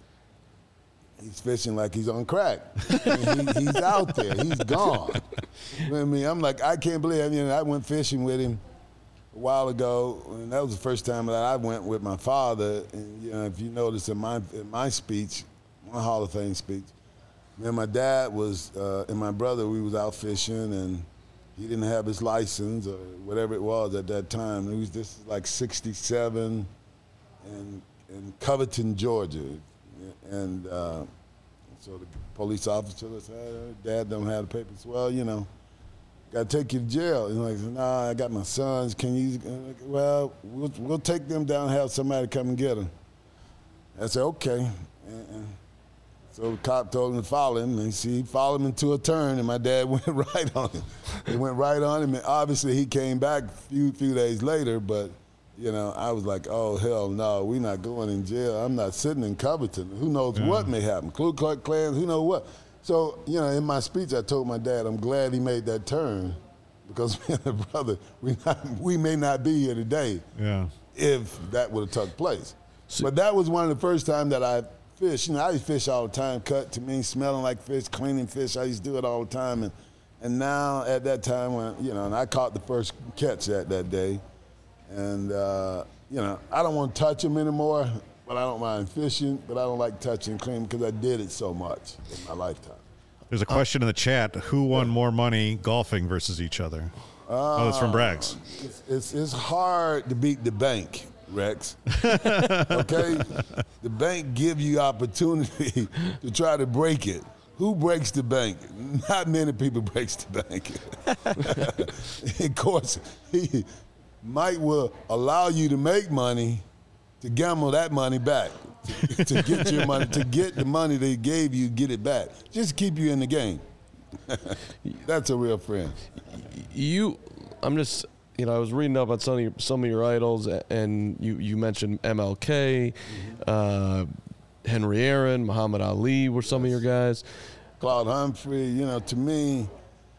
S3: he's fishing like he's on crack. I mean, he, he's out there. He's gone. You know what I mean? I'm like, I can't believe. I mean, I went fishing with him a while ago, and that was the first time that I went with my father. And you know, if you notice in my in my speech, my Hall of Fame speech, man, my dad was uh, and my brother. We was out fishing, and he didn't have his license or whatever it was at that time. It was this is like sixty-seven, in in Covington, Georgia. And uh, so the police officer said, Dad don't have the papers. Well, you know, got to take you to jail. And like, nah, I got my sons. Can you? Well, we'll, we'll take them down and have somebody come and get them. I said, okay. And, and so the cop told him to follow him. And see, he followed him into a turn, and my dad went right on him. He went right on him. And obviously, he came back a few, few days later, but you know, I was like, oh, hell no, we're not going in jail. I'm not sitting in Covington. Who knows yeah. what may happen? Ku Klux Klan, who knows what? So, you know, in my speech, I told my dad, I'm glad he made that turn because me and my brother, we, not, we may not be here today
S4: yeah.
S3: if that would have took place. So, but that was one of the first times that I fished. You know, I used to fish all the time, cut to me, smelling like fish, cleaning fish. I used to do it all the time. And, and now at that time, when you know, and I caught the first catch that, that day. And, uh, you know, I don't want to touch them anymore, but I don't mind fishing, but I don't like touching clean because I did it so much in my lifetime.
S4: There's a question uh, in the chat. Who won yeah. more money golfing versus each other? Uh, oh, it's from Braggs.
S3: It's, it's, it's hard to beat the bank, Rex. Okay? The bank give you opportunity to try to break it. Who breaks the bank? Not many people breaks the bank. Of course, he... Mike will allow you to make money to gamble that money back, to, to get your money, to get the money they gave you, get it back. Just keep you in the game. That's a real friend.
S1: You, I'm just, you know, I was reading up on some of your, some of your idols, and you, you mentioned M L K, mm-hmm. uh, Henry Aaron, Muhammad Ali were some yes. of your guys.
S3: Claude Humphrey, you know, to me,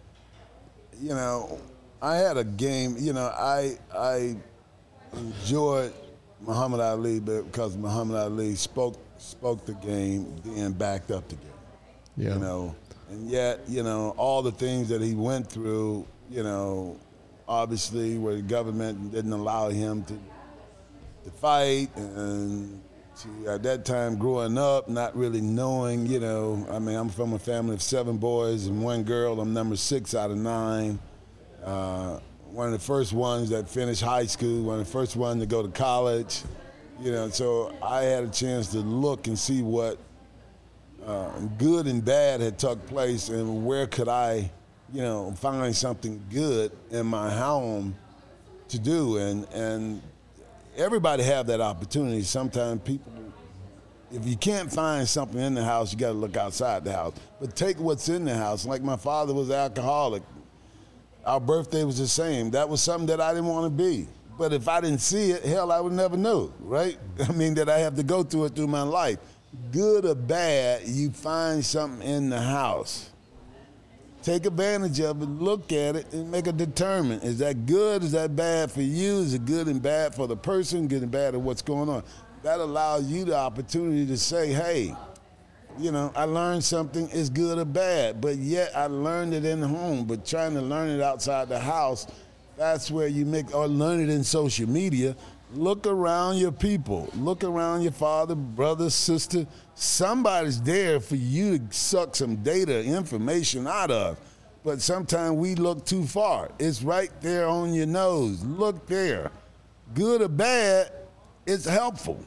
S3: you know, I had a game, you know, I I enjoyed Muhammad Ali because Muhammad Ali spoke spoke the game, then backed up the game. Yeah. You know, and yet, you know, all the things that he went through, you know, obviously where the government didn't allow him to to fight and to, at that time growing up, not really knowing, you know, I mean, I'm from a family of seven boys and one girl. I'm number six out of nine. Uh, one of the first ones that finished high school, one of the first ones to go to college, you know, so I had a chance to look and see what uh, good and bad had took place and where could I, you know, find something good in my home to do. And, and everybody have that opportunity. Sometimes people, if you can't find something in the house, you got to look outside the house. But take what's in the house. Like my father was an alcoholic. Our birthday was the same. That was something that I didn't want to be. But if I didn't see it, hell, I would never know, right? I mean, that I have to go through it through my life. Good or bad, you find something in the house. Take advantage of it, look at it, and make a determine. Is that good? Is that bad for you? Is it good and bad for the person? Good and bad at what's going on? That allows you the opportunity to say, hey, you know, I learned something, is good or bad, but yet I learned it in the home. But trying to learn it outside the house, that's where you make, or learn it in social media, Look around your people. Look around your father, brother, sister. Somebody's there for you to suck some data, information out of. But sometimes we look too far. It's right there on your nose. Look there. Good or bad, it's helpful.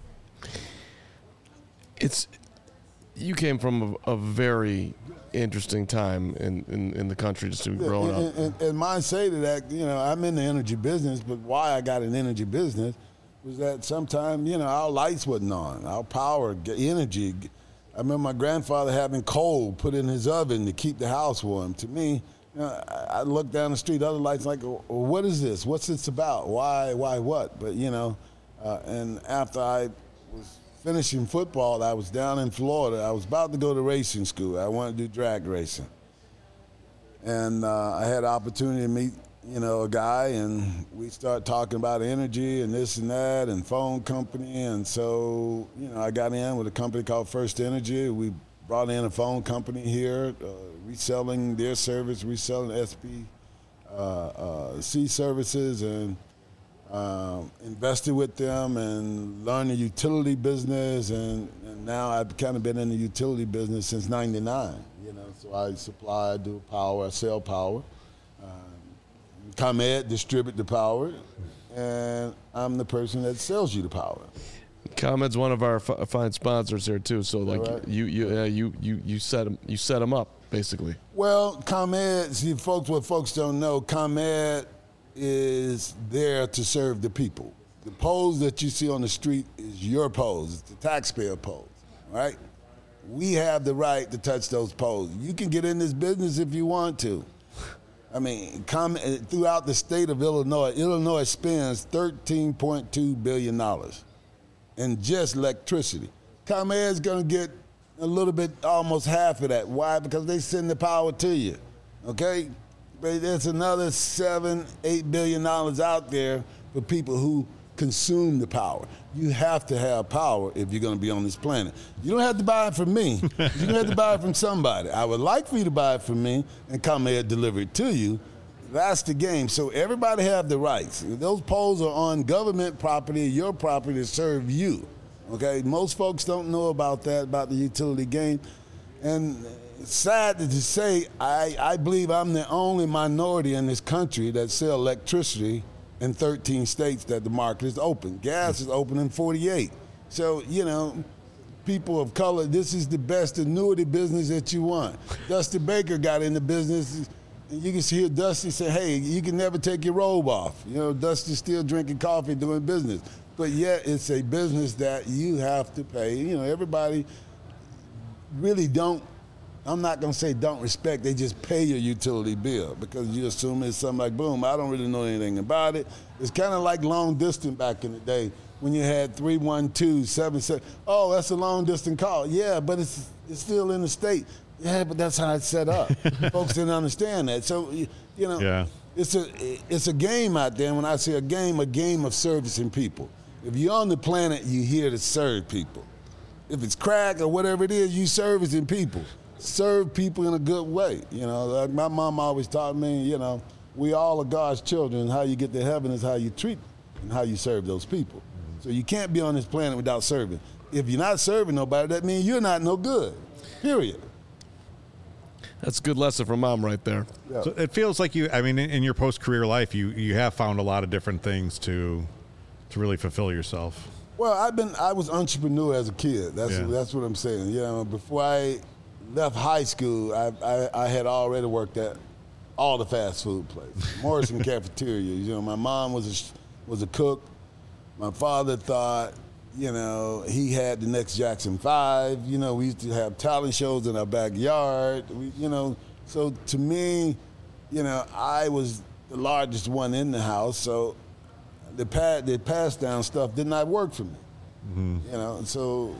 S1: It's you came from a, a very interesting time in, in, in the country just to be growing
S3: and,
S1: up.
S3: And, and mine say to that, you know, I'm in the energy business, but why I got an energy business was that sometimes, you know, our lights wasn't on, our power, energy. I remember my grandfather having coal put in his oven to keep the house warm. To me, you know, I, I look down the street, other lights like, well, what is this? What's this about? Why, why, what? But, you know, uh, and after I was finishing football, I was down in Florida. I was about to go to racing school. I wanted to do drag racing. And uh, I had the opportunity to meet, you know, a guy, and we started talking about energy and this and that and phone company. And so, you know, I got in with a company called First Energy. We brought in a phone company here, uh, reselling their service, reselling S P uh, uh, C services, and Um, invested with them and learned the utility business, and, and now I've kind of been in the utility business since ninety-nine. You know, so I supply, I do power, I sell power. Um, ComEd distribute the power, and I'm the person that sells you the power.
S1: ComEd's one of our f- fine sponsors here too. So like
S3: right?
S1: you you uh, you you you set them you set them up basically.
S3: Well, ComEd, see, folks, what folks don't know, ComEd is there to serve the people. The poles that you see on the street is your poles. It's the taxpayer poles, right? We have the right to touch those poles. You can get in this business if you want to. I mean, com- throughout the state of Illinois, Illinois spends thirteen point two billion dollars in just electricity. ComEd's going to get a little bit, almost half of that. Why? Because they send the power to you, okay? But there's another seven, eight billion dollars out there for people who consume the power. You have to have power if you're going to be on this planet. You don't have to buy it from me. You have to buy it from somebody. I would like for you to buy it from me and ComEd deliver it to you. That's the game. So everybody have the rights. Those poles are on government property, your property, to serve you. Okay? Most folks don't know about that, about the utility game. And it's sad to say, I, I believe I'm the only minority in this country that sell electricity in thirteen states that the market is open. Gas is open in forty-eight. So, you know, people of color, this is the best annuity business that you want. Dusty Baker got in the business, and you can hear Dusty say, hey, you can never take your robe off. You know, Dusty's still drinking coffee, doing business. But yet it's a business that you have to pay. You know, everybody really don't, I'm not going to say don't respect, they just pay your utility bill because you assume it's something like, boom, I don't really know anything about it. It's kind of like long distance back in the day when you had three one two seven seven. Oh, that's a long distance call. Yeah, but it's it's still in the state. Yeah, but that's how it's set up. Folks didn't understand that. So, you know,
S4: yeah.
S3: it's a it's a game out there. And when I say a game, a game of servicing people. If you're on the planet, you're here to serve people. If it's crack or whatever it is, you servicing people. Serve people in a good way. You know, like my mom always taught me, you know, we all are God's children. How you get to heaven is how you treat and how you serve those people. So you can't be on this planet without serving. If you're not serving nobody, that means you're not no good, period.
S1: That's a good lesson from Mom right there.
S3: Yeah.
S4: So it feels like you, I mean, in, in your post-career life, you, you have found a lot of different things to to really fulfill yourself.
S3: Well, I've been, I was entrepreneur as a kid. That's
S4: Yeah.
S3: that's what I'm saying. You know, before I left high school, I, I, I had already worked at all the fast food places, Morrison Cafeteria. You know, my mom was a, was a cook. My father thought, you know, he had the next Jackson Five. You know, we used to have talent shows in our backyard. We, you know, so to me, you know, I was the largest one in the house. So the pa- the pass down stuff did not work for me. Mm-hmm. You know, so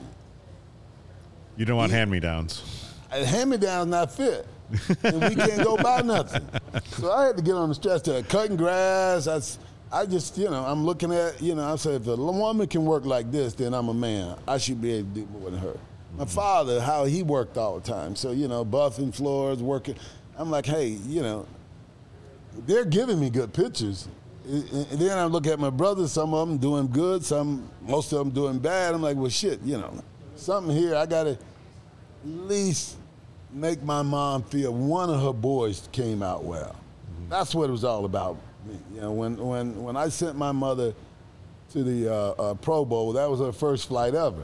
S4: You don't want
S3: Yeah.
S4: hand-me-downs.
S3: hand-me-down's not fit. And we can't go buy nothing. So I had to get on the stretch there. Cutting grass, I, s- I just, you know, I'm looking at, you know, I said, if a woman can work like this, then I'm a man. I should be able to do more than her. My father, how he worked all the time. So, you know, buffing floors, working. I'm like, hey, you know, they're giving me good pictures. And then I look at my brothers, some of them doing good, some, most of them doing bad. I'm like, well, shit, you know, something here, I got to at least make my mom feel one of her boys came out well. Mm-hmm. That's what it was all about. You know, when, when, when I sent my mother to the uh, uh, Pro Bowl, that was her first flight ever.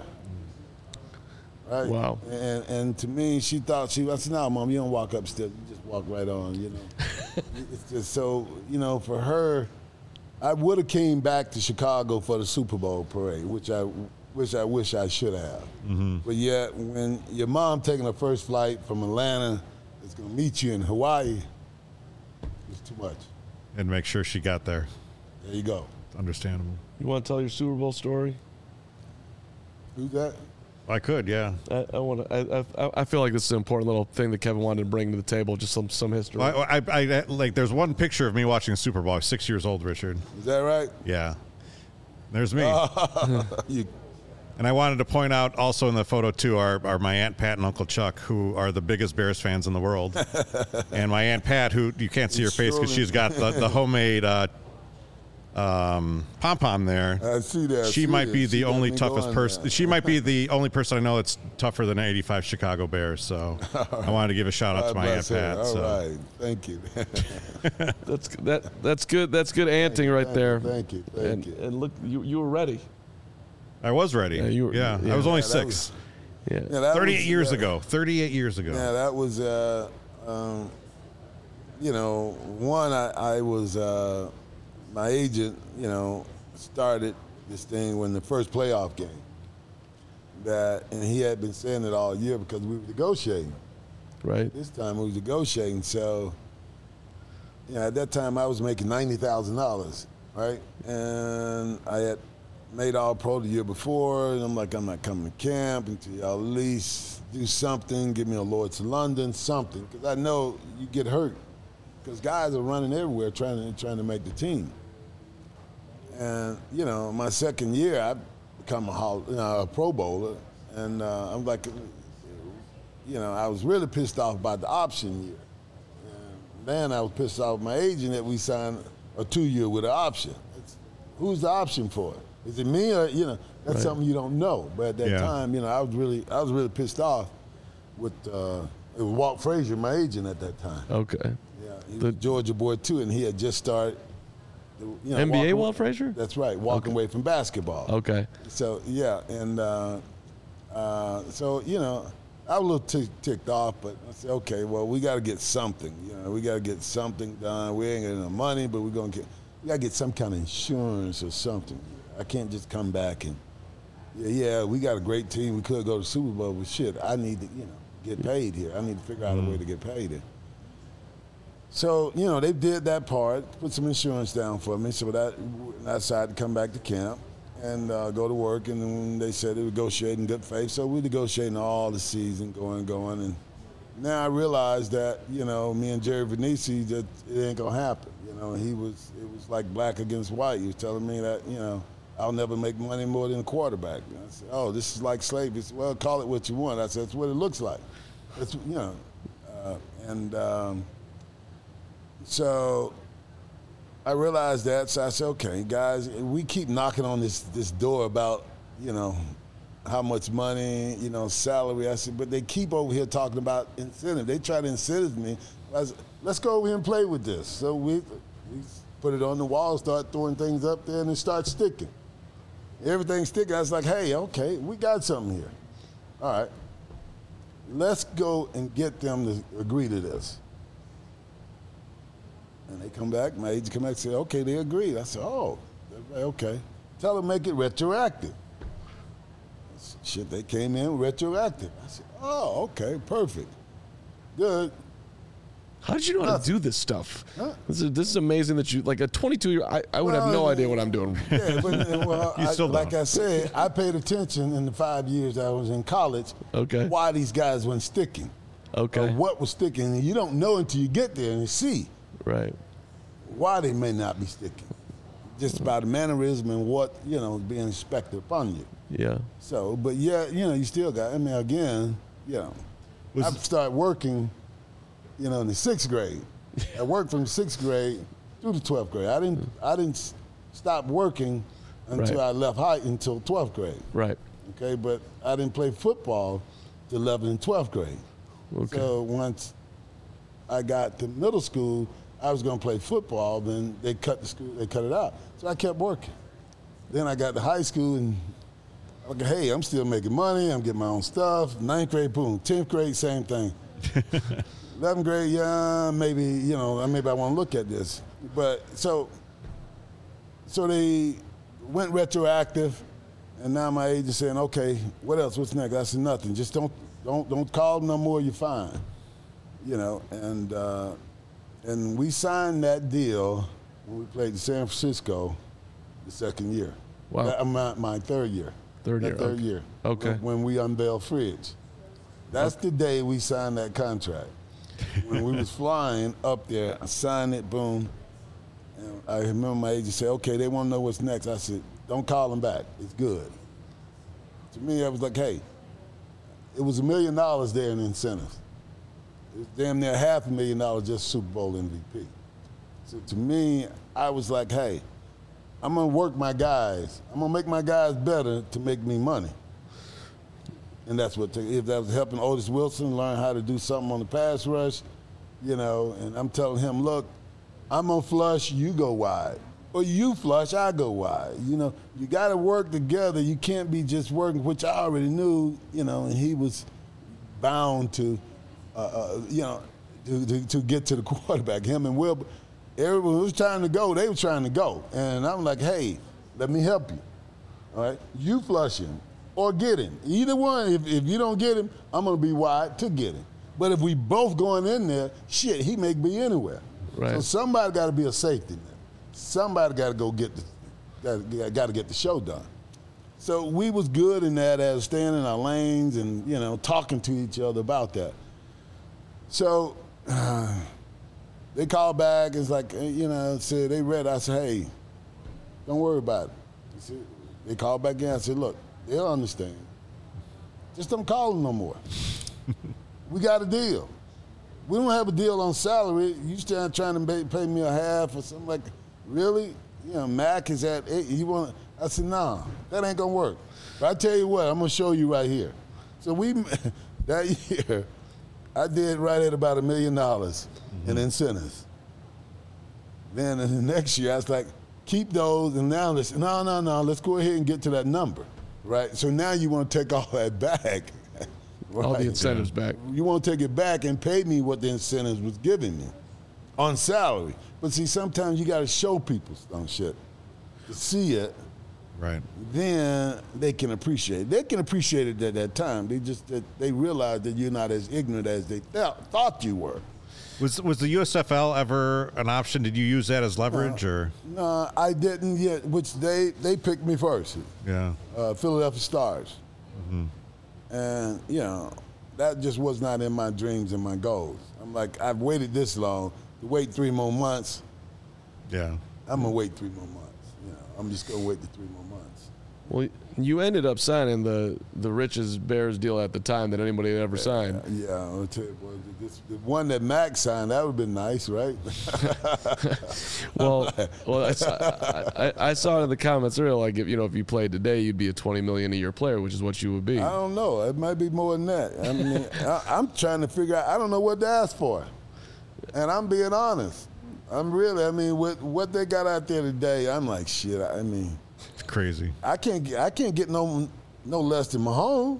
S3: Right?
S1: Wow.
S3: And, and to me, she thought, she, I said, no, Mom, you don't walk upstairs, you just walk right on, you know. It's just so, you know, for her, I would have came back to Chicago for the Super Bowl parade, which I, which I wish I should have. Mm-hmm. But yet, when your mom taking her first flight from Atlanta is going to meet you in Hawaii, it's too much.
S4: And make sure she got there.
S3: There you go.
S4: Understandable.
S1: You want to tell your Super Bowl story?
S3: Who's that?
S4: I could, yeah.
S1: I, I want to. I, I I feel like this is an important little thing that Kevin wanted to bring to the table. Just some some history.
S4: Well, I, I, I like. There's one picture of me watching a Super Bowl. I was six years old, Richard.
S3: Is that right?
S4: Yeah. There's me.
S3: you,
S4: And I wanted to point out also in the photo too are, are my Aunt Pat and Uncle Chuck, who are the biggest Bears fans in the world. And my Aunt Pat, who you can't see her face because she's got the, the homemade uh, um, pom pom there.
S3: I see that. I
S4: she
S3: see
S4: might
S3: it.
S4: be the
S3: She
S4: only
S3: got me
S4: toughest
S3: going
S4: person.
S3: now.
S4: She might be the only person I know that's tougher than eighty-five Chicago Bears. So I wanted to give a shout out to
S3: God
S4: my Aunt
S3: bless her.
S4: Pat.
S3: All
S4: so.
S3: right. Thank you.
S1: That's that. That's good. That's good anting right
S3: thank
S1: there.
S3: You, thank you. Thank
S1: and,
S3: you.
S1: and look, you you were ready.
S4: I was ready.
S1: Yeah, you were-
S4: yeah,
S1: yeah.
S4: I was only
S3: Yeah, that
S4: six.
S3: was-
S1: Yeah.
S3: Yeah, that
S4: thirty-eight
S3: was,
S4: years
S3: uh,
S4: ago. thirty-eight years ago.
S3: Yeah, that was, uh, um, you know, one, I, I was, uh, my agent, you know, started this thing when the first playoff game. That, and he had been saying it all year because we were negotiating.
S1: Right.
S3: This time we were negotiating, so, you know, at that time I was making ninety thousand dollars, right? And I had made all pro the year before, and I'm like, I'm not coming to camp until y'all at least do something, give me a Lord's to London, something, because I know you get hurt, because guys are running everywhere trying to trying to make the team. And you know, my second year, I become a, hall, you know, a Pro Bowler, and uh, I'm like, you know, I was really pissed off about the option year. And then I was pissed off with my agent that we signed a two-year with an option. It's, who's the option for it? Is it me or, you know, that's
S1: Right.
S3: something you don't know. But at that
S4: Yeah.
S3: time, you know, I was really I was really pissed off with, uh, it was Walt Frazier, my agent at that time.
S1: Okay.
S3: Yeah, he
S1: The-
S3: was a Georgia boy too, and he had just started. the- You know,
S1: N B A
S3: walking-
S1: Walt Frazier?
S3: That's right, walking away from basketball.
S1: Okay.
S3: So yeah, and uh, uh, so you know, I was a little tick, ticked off, but I said, okay, well, we got to get something. You know, we got to get something done. We ain't got enough money, but we're gonna get. We got to get some kind of insurance or something. I can't just come back and yeah, yeah, we got a great team. We could go to Super Bowl, but shit, I need to, you know, get paid here. I need to figure out a way to get paid here. So, you know, they did that part, put some insurance down for me, so that I decided to come back to camp and uh, go to work, and then they said they would negotiate in good faith, so we negotiating all the season, going, going, and now I realized that, you know, me and Jerry Venisi, that it ain't gonna happen. You know, he was, it was like black against white. He was telling me that, you know, I'll never make money more than a quarterback. And I said, oh, this is like slavery. He said, well, call it what you want. I said, that's what it looks like. That's, you know, uh, and um, so I realized that. So I said, okay, guys, we keep knocking on this this door about, you know, how much money, you know, salary. I said, but they keep over here talking about incentive. They try to incentive me. I said, let's go over here and play with this. So we, we put it on the wall, start throwing things up there, and it starts sticking. Everything's sticking. I was like, hey, okay, we got something here. All right. Let's go and get them to agree to this. And they come back, my agent come back and say, okay, they agreed. I said, oh, okay. Tell them make it retroactive. Shit, they came in retroactive. I said, oh, okay, perfect. Good.
S1: How did you know how to do this stuff?
S3: Huh?
S1: This is, this is amazing that you, like a twenty-two year, I, I would have no
S3: Well,
S1: idea what I'm doing.
S3: Yeah, but well,
S4: You
S3: I,
S4: still
S3: like
S4: don't.
S3: I said, I paid attention in the five years I was in college.
S1: Okay.
S3: Why these guys weren't sticking?
S1: Okay.
S3: Or what was sticking? And you don't know until you get there and you see
S1: Right.
S3: why they may not be sticking. Just by the mannerism and what, you know, being expected upon you.
S1: Yeah.
S3: So, but yeah, you know, you still got, I mean, again, you know, I started working, you know, in the sixth grade. I worked from sixth grade through the twelfth grade. I didn't I didn't stop working until
S1: Right.
S3: I left high until twelfth grade.
S1: Right.
S3: Okay, but I didn't play football till eleventh and twelfth grade.
S1: Okay.
S3: So once I got to middle school, I was going to play football. Then they cut the school, they cut it out. So I kept working. Then I got to high school and okay, hey, I'm still making money. I'm getting my own stuff. Ninth grade, boom. Tenth grade, same thing. Eleventh grade, yeah, maybe you know, maybe I want to look at this. But so, so they went retroactive, and now my agent saying, okay, what else? What's next? I said nothing. Just don't, don't, don't call them no more. You're fine. You know, and uh, and we signed that deal when we played in San Francisco the second year.
S1: Wow.
S3: That, my, my third year.
S1: Third
S3: That
S1: year,
S3: Third
S1: okay.
S3: year.
S1: Okay.
S3: When we unveiled Fridge. That's the day we signed that contract. When we was flying up there, I signed it, boom. And I remember my agent said, okay, they want to know what's next. I said, don't call them back. It's good. To me, I was like, hey, it was a million dollars there in incentives. It was damn near half a million dollars just Super Bowl M V P. So to me, I was like, hey, I'm going to work my guys. I'm going to make my guys better to make me money. And that's what, if that was helping Otis Wilson learn how to do something on the pass rush, you know, and I'm telling him, look, I'm going to flush, you go wide. Or you flush, I go wide. You know, you got to work together. You can't be just working, which I already knew, you know, and he was bound to, uh, uh, you know, to, to, to get to the quarterback. Him and Will, everyone was trying to go, they were trying to go. And I'm like, hey, let me help you. All right? You flush him. Or get him. Either one, if, if you don't get him, I'm going to be wide to get him. But if we both going in there, shit, he may be anywhere.
S1: Right.
S3: So somebody got to be a safety net. Somebody got to go get the, got to get the show done. So we was good in that as staying in our lanes and, you know, talking to each other about that. So uh, they called back. It's like, you know, said they read. I said, hey, don't worry about it. Said, they called back in. I said, look, they'll understand. Just don't call them no more. We got a deal. We don't have a deal on salary. You still trying to pay, pay me a half or something like that. Really? You know, Mac is at eight. You want? I said, nah, that ain't gonna work. But I tell you what, I'm gonna show you right here. So we, that year, I did right at about a million dollars in incentives. Then in the next year, I was like, keep those, and now let's, no, no, no, let's go ahead and get to that number. Right, so now you want to take all that back. Right?
S1: All the incentives back.
S3: You want to take it back and pay me what the incentives was giving me on salary. But see, sometimes you got to show people some shit to see it.
S4: Right.
S3: Then they can appreciate it. They can appreciate it at that time. They just that they realize that you're not as ignorant as they th- thought you were.
S4: Was was the U S F L ever an option? Did you use that as leverage,
S3: Uh,
S4: or?
S3: No, I didn't yet. Which they they picked me first.
S4: Yeah.
S3: Uh, Philadelphia Stars.
S4: Mm-hmm.
S3: And, you know, that just was not in my dreams and my goals. I'm like, I've waited this long. To wait three more months,
S4: Yeah.
S3: I'm going to wait three more months. You know, I'm just going to wait the three more months.
S1: Well, you ended up signing the, the richest Bears deal at the time that anybody had ever signed.
S3: Yeah, I'll tell you, boy, this, the one that Max signed, that would have been nice, right?
S1: Well, well, I, saw- I, I saw in the comments earlier, like if you know, if you played today, you'd be a twenty million a year player, which is what you would be.
S3: I don't know. It might be more than that. I mean, I, I'm trying to figure out. I don't know what to ask for, and I'm being honest. I'm really. I mean, with what they got out there today, I'm like, shit. I mean,
S4: It's crazy.
S3: I can't get. I can't get no no less than Mahomes.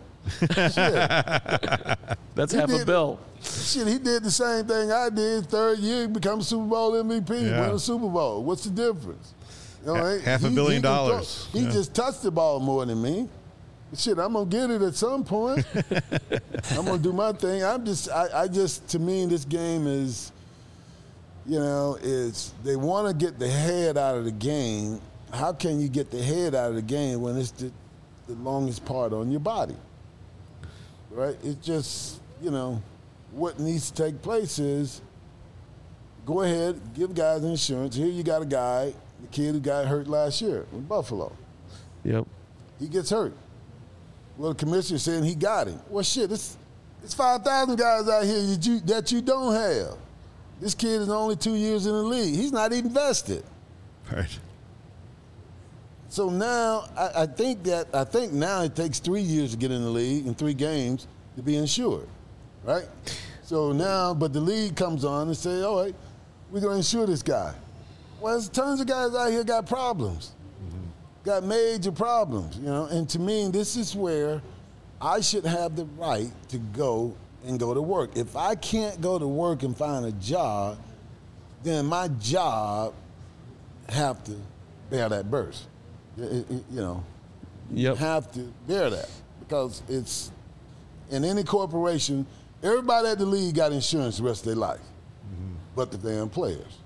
S3: Shit.
S1: That's
S3: He
S1: half a
S3: did-
S1: bill.
S3: Shit, he did the same thing I did. Third year, become Super Bowl M V P,
S4: Yeah.
S3: win a Super Bowl. What's the difference? You know,
S4: Ha- half a
S3: he-
S4: billion
S3: he can throw-
S4: dollars.
S3: He
S4: Yeah.
S3: just touched the ball more than me. Shit, I'm gonna get it at some point. I'm gonna do my thing. I'm just, I, I just, to me, this game is, you know, is they want to get the head out of the game. How can you get the head out of the game when it's the, the longest part on your body? Right? It's just, you know, what needs to take place is go ahead, give guys insurance. Here you got a guy, the kid who got hurt last year in Buffalo.
S1: Yep.
S3: He gets hurt. Well, the commissioner saying he got him. Well, shit, it's it's five thousand guys out here that you, that you don't have. This kid is only two years in the league. He's not even vested.
S4: Right.
S3: So now I, I think that I think now it takes three years to get in the league and three games to be insured, right? So now, but the league comes on and say, all right, we're going to insure this guy. Well, there's tons of guys out here got problems, mm-hmm. got major problems, you know. And to me, this is where I should have the right to go and go to work. If I can't go to work and find a job, then my job have to bear that burst. It, it, you know, you
S1: yep.
S3: have to bear that because it's in any corporation. Everybody at the league got insurance the rest of their life, mm-hmm. but the damn players.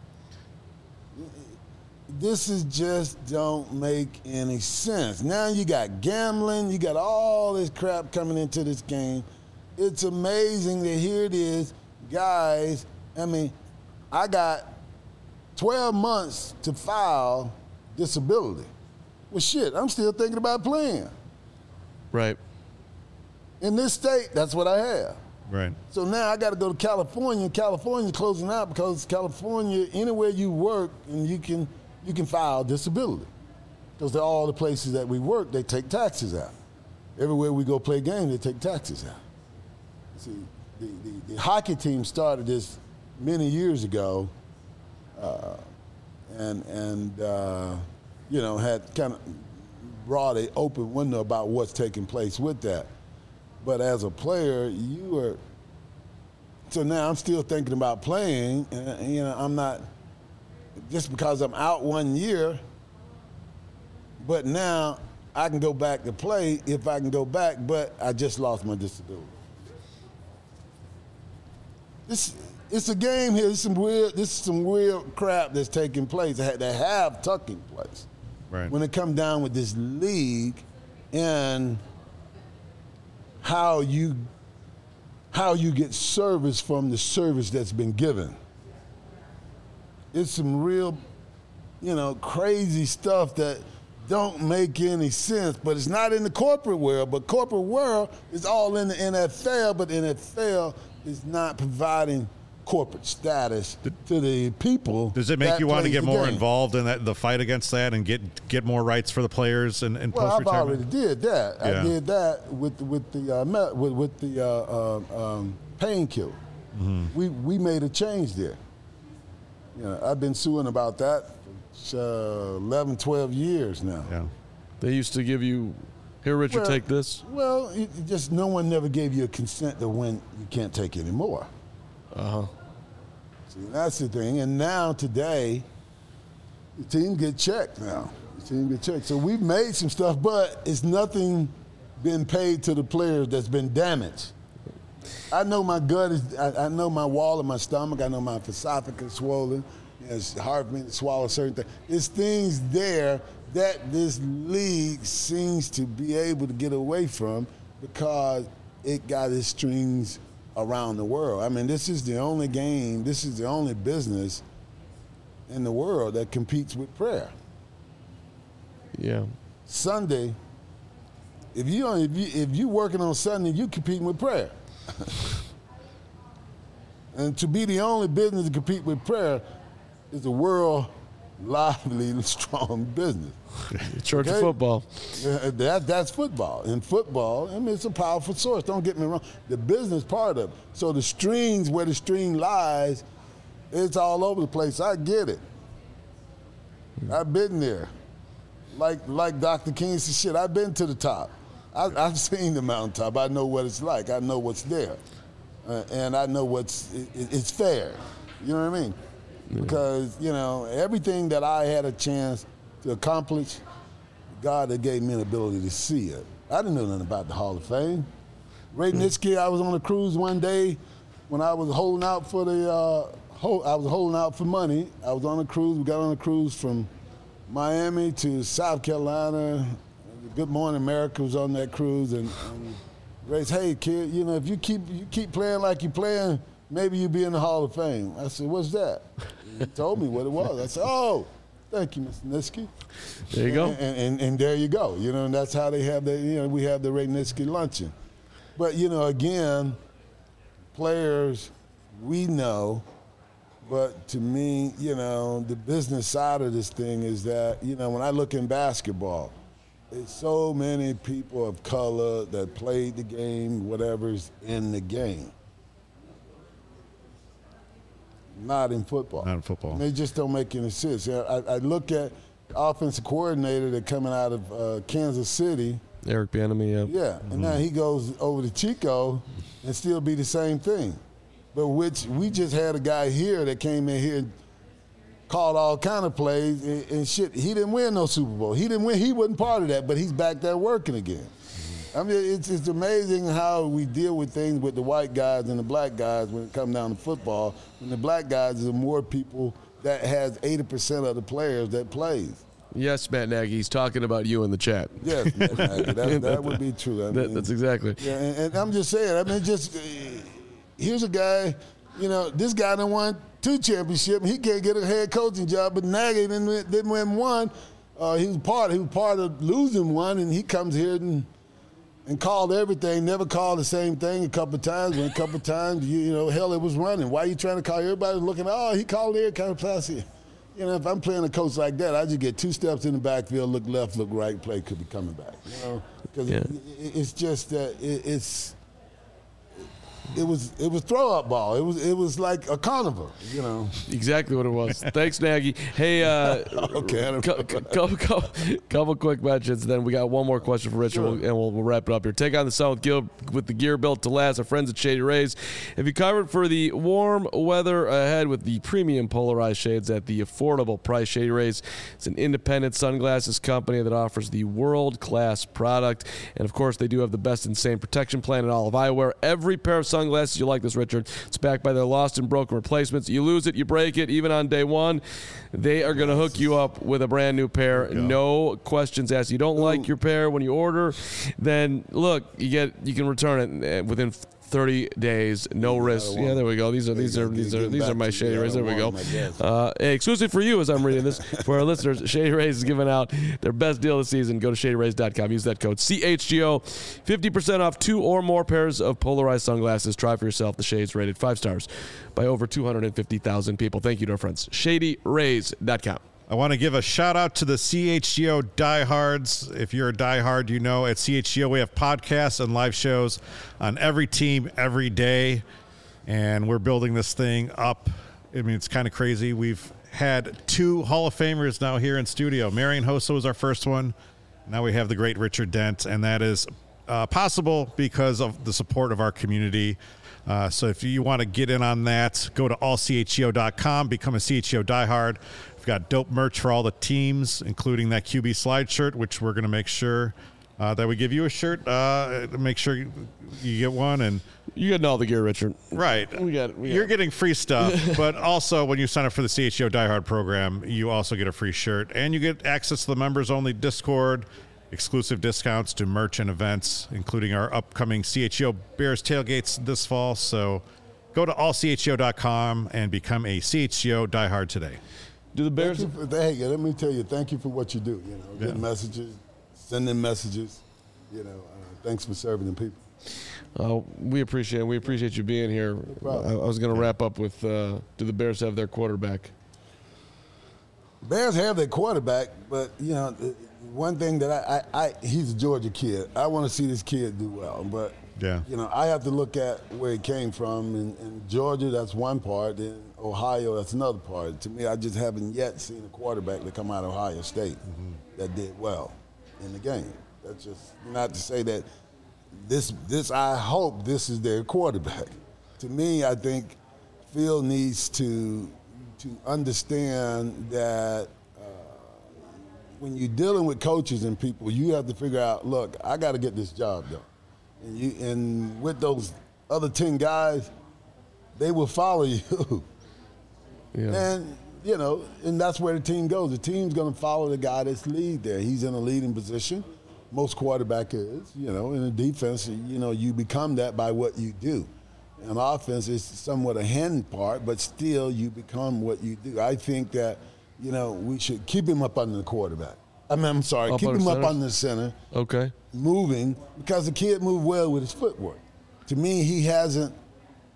S3: This is just don't make any sense. Now you got gambling, you got all this crap coming into this game. It's amazing that here it is, guys. I mean, I got twelve months to file disability. Well, shit, I'm still thinking about playing.
S1: Right.
S3: In this state, that's what I have.
S4: Right.
S3: So now I got to go to California. California's closing out because California, anywhere you work, and you can you can file disability. Because they're all the places that we work, they take taxes out. Everywhere we go play games, they take taxes out. See, the, the, the hockey team started this many years ago, uh, and and uh, you know had kind of brought an open window about what's taking place with that. But as a player, you are. So now I'm still thinking about playing, and you know I'm not just because I'm out one year. But now I can go back to play if I can go back, but I just lost my disability. This it's a game here. This is some weird. This is some weird crap that's taking place. That have taking place.
S4: Right.
S3: When it comes down with this league, and how you how you get service from the service that's been given. It's some real, you know, crazy stuff that don't make any sense, but it's not in the corporate world. But corporate world is all in the N F L, but the N F L is not providing corporate status to the people.
S4: Does it make you want to get more
S3: game.
S4: involved in that, the fight against that, and get get more rights for the players and, and
S3: well,
S4: post-retirement?
S3: I've already did that.
S4: Yeah.
S3: I did that with with the uh, me- with, with the uh, uh, um, painkiller. Mm-hmm. We we made a change there. You know, I've been suing about that for uh, eleven, twelve years now.
S4: Yeah.
S1: They used to give you, here, Richard,
S3: Well-
S1: take this.
S3: Well, it, it just no one never gave you a consent to when you can't take anymore.
S1: Uh-huh.
S3: See, that's the thing. And now, today, the team get checked now. The team get checked. So we've made some stuff, but it's nothing been paid to the players that's been damaged. I know my gut is, I, I know my wall of my stomach. I know my esophagus swollen. You know, it's hard for me to swallow certain things. There's things there that this league seems to be able to get away from because it got its strings around the world. I mean, this is the only game, this is the only business in the world that competes with prayer.
S1: Yeah.
S3: Sunday, if you if you if you working on Sunday, you competing with prayer. And to be the only business to compete with prayer is a world lively, strong business.
S1: Church
S3: Okay?
S1: of football.
S3: Yeah, that, that's football. In football, I mean, it's a powerful source. Don't get me wrong. The business part of it. So the strings, where the string lies, it's all over the place. I get it. I've been there. Like like Doctor King said, shit, I've been to the top. I, I've seen the mountaintop. I know what it's like. I know what's there. Uh, and I know what's, it, it's fair. You know what I mean? Because, you know, everything that I had a chance to accomplish, God that gave me an ability to see it. I didn't know nothing about the Hall of Fame. Ray Nitschke, I was on a cruise one day when I was holding out for the, uh, ho- I was holding out for money. I was on a cruise. We got on a cruise from Miami to South Carolina. Good Morning America was on that cruise, and, and Ray said, hey, kid, you know, if you keep you keep playing like you're playing, maybe you'll be in the Hall of Fame. I said, what's that? He told me what it was. I said, oh, thank you, Mister Nitschke.
S1: There you go.
S3: And, and, and, and there you go. You know, and that's how they have the, you know, we have the Ray Nitschke luncheon. But, you know, again, players, we know But to me, you know, the business side of this thing is that, you know, when I look in basketball, it's so many people of color that played the game, whatever's in the game. Not in football.
S4: Not in football.
S3: And they just don't make any sense. I, I look at the offensive coordinator that coming out of uh, Kansas City.
S1: Eric Bieniemy, yeah.
S3: Yeah, and mm-hmm. now he goes over to Chico and still be the same thing. But which we just had a guy here that came in here and called all kind of plays and, and shit. He didn't win no Super Bowl. He didn't win. He wasn't part of that, but he's back there working again. I mean, it's, it's amazing how we deal with things with the white guys and the black guys when it comes down to football. When the black guys are more people that has eighty percent of the players that plays.
S1: Yes, Matt Nagy, he's talking about you in the chat.
S3: Yes, Matt Nagy, that, that would be true. I
S1: that,
S3: mean,
S1: that's exactly.
S3: Yeah, and, and I'm just saying, I mean, just uh, here's a guy, you know, this guy done won two championships. He can't get a head coaching job, but Nagy didn't, didn't win one. Uh, he was part. He was part of losing one, and he comes here and and called everything. Never called the same thing a couple of times. When a couple of times, you, you know, hell, it was running. Why are you trying to call? Everybody was looking. Oh, he called every kind of pass here. You know, if I'm playing a coach like that, I just get two steps in the backfield, look left, look right, play could be coming back. You know, because
S1: yeah.
S3: it, it, it's just that it, it's. It was it was throw up ball. It was it was like a carnival, you know.
S1: Exactly what it was. Thanks, Nagy. Hey, uh,
S3: okay.
S1: Couple, couple, couple, couple quick mentions. Then we got one more question for Richard,
S3: Sure.
S1: and we'll, we'll wrap it up here. Take on the sun with, Gil, with the gear built to last. Our friends at Shady Rays have you covered for the warm weather ahead with the premium polarized shades at the affordable price. Shady Rays is an independent sunglasses company that offers the world-class product, and of course, they do have the best insane protection plan in all of eyewear. Every pair of sunglasses Sunglasses, you like this, Richard. It's backed by their lost and broken replacements. You lose it, you break it, even on day one. They are going to hook you up with a brand new pair. No questions asked. You don't like your pair when you order, then look, you get you can return it within thirty days, no risk. Yeah, there we go. These are these are these are these are my Shady Rays. There we go. Uh, hey, exclusive for you as I'm reading this for our listeners. Shady Rays is giving out their best deal of the season. Go to shady rays dot com. Use that code C H G O. fifty percent off two or more pairs of polarized sunglasses. Try for yourself. The shades rated five stars by over two hundred fifty thousand people. Thank you to our friends. shady rays dot com.
S4: I want to give a shout out to the C H G O diehards. If you're a diehard, you know at C H G O we have podcasts and live shows on every team every day, and we're building this thing up. I mean, it's kind of crazy. We've had two Hall of Famers now here in studio. Marion Hossa was our first one. Now we have the great Richard Dent, and that is uh, possible because of the support of our community. Uh, so if you want to get in on that, go to all c h g o dot com, become a C H G O diehard. We've got dope merch for all the teams, including that Q B slide shirt, which we're going to make sure uh, that we give you a shirt. Uh, make sure you, you get one. And
S1: you getting all the gear, Richard.
S4: Right.
S1: We got, we got
S4: You're getting free stuff, but also when you sign up for the C H G O diehard program, you also get a free shirt, and you get access to the members-only Discord, exclusive discounts to merch and events, including our upcoming C H G O Bears tailgates this fall. So go to all c h g o dot com and become a C H G O diehard today.
S1: Do the Bears?
S3: Thank you for, hey, let me tell you, thank you for what you do. You know,
S4: Yeah.
S3: getting messages, sending messages. You know, uh, thanks for serving the people.
S1: Oh, we appreciate it. We appreciate you being here. I, I was going to wrap up with, uh, do the Bears have their quarterback?
S3: Bears have their quarterback, but, you know, the- one thing that I, I, I he's a Georgia kid. I want to see this kid do well, but,
S4: Yeah.
S3: you know, I have to look at where he came from. In, in Georgia, that's one part. In Ohio, that's another part. To me, I just haven't yet seen a quarterback that come out of Ohio State mm-hmm. that did well in the game. That's just not to say that this, this. I hope this is their quarterback. To me, I think Phil needs to to understand that uh, when you're dealing with coaches and people, you have to figure out, look, I got to get this job done. And, you, and with those other ten guys, they will follow you.
S1: Yeah.
S3: And, you know, and that's where the team goes. The team's going to follow the guy that's lead there. He's in a leading position. Most quarterback is, you know, in a defense, you know, you become that by what you do. And offense is somewhat a hand part, but still you become what you do. I think that, you know, we should keep him up under the quarterback. I mean, I'm sorry,
S1: Up
S3: keep
S1: under
S3: him up
S1: center?
S3: under the center.
S1: Okay.
S3: Moving, because the kid moved well with his footwork. To me, he hasn't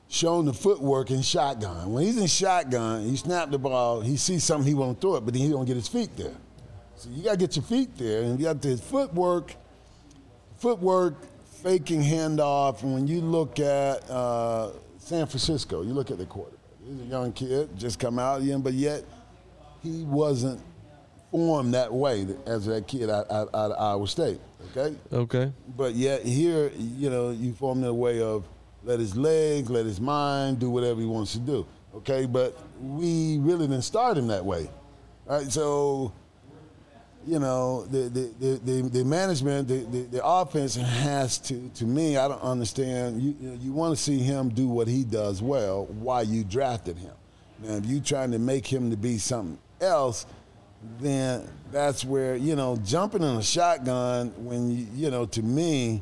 S3: shown the footwork in shotgun. When he's in shotgun, you snap the ball, he sees something, he won't throw it, but then he don't get his feet there. So you got to get your feet there, and you got his footwork, footwork, faking handoff. And when you look at uh, San Francisco, you look at the quarterback. He's a young kid, just come out, but yet he wasn't formed that way as that kid out, out, out of Iowa State, okay?
S1: Okay.
S3: But yet here, you know, you form in a way of let his legs, let his mind do whatever he wants to do, okay? But we really didn't start him that way, right? So, you know, the the, the, the, the management, the, the, the offense has to, to me, I don't understand. You, you, know, you want to see him do what he does well while you drafted him. Now, if you're trying to make him to be something else, then that's where, you know, jumping in a shotgun when, you, you know, to me,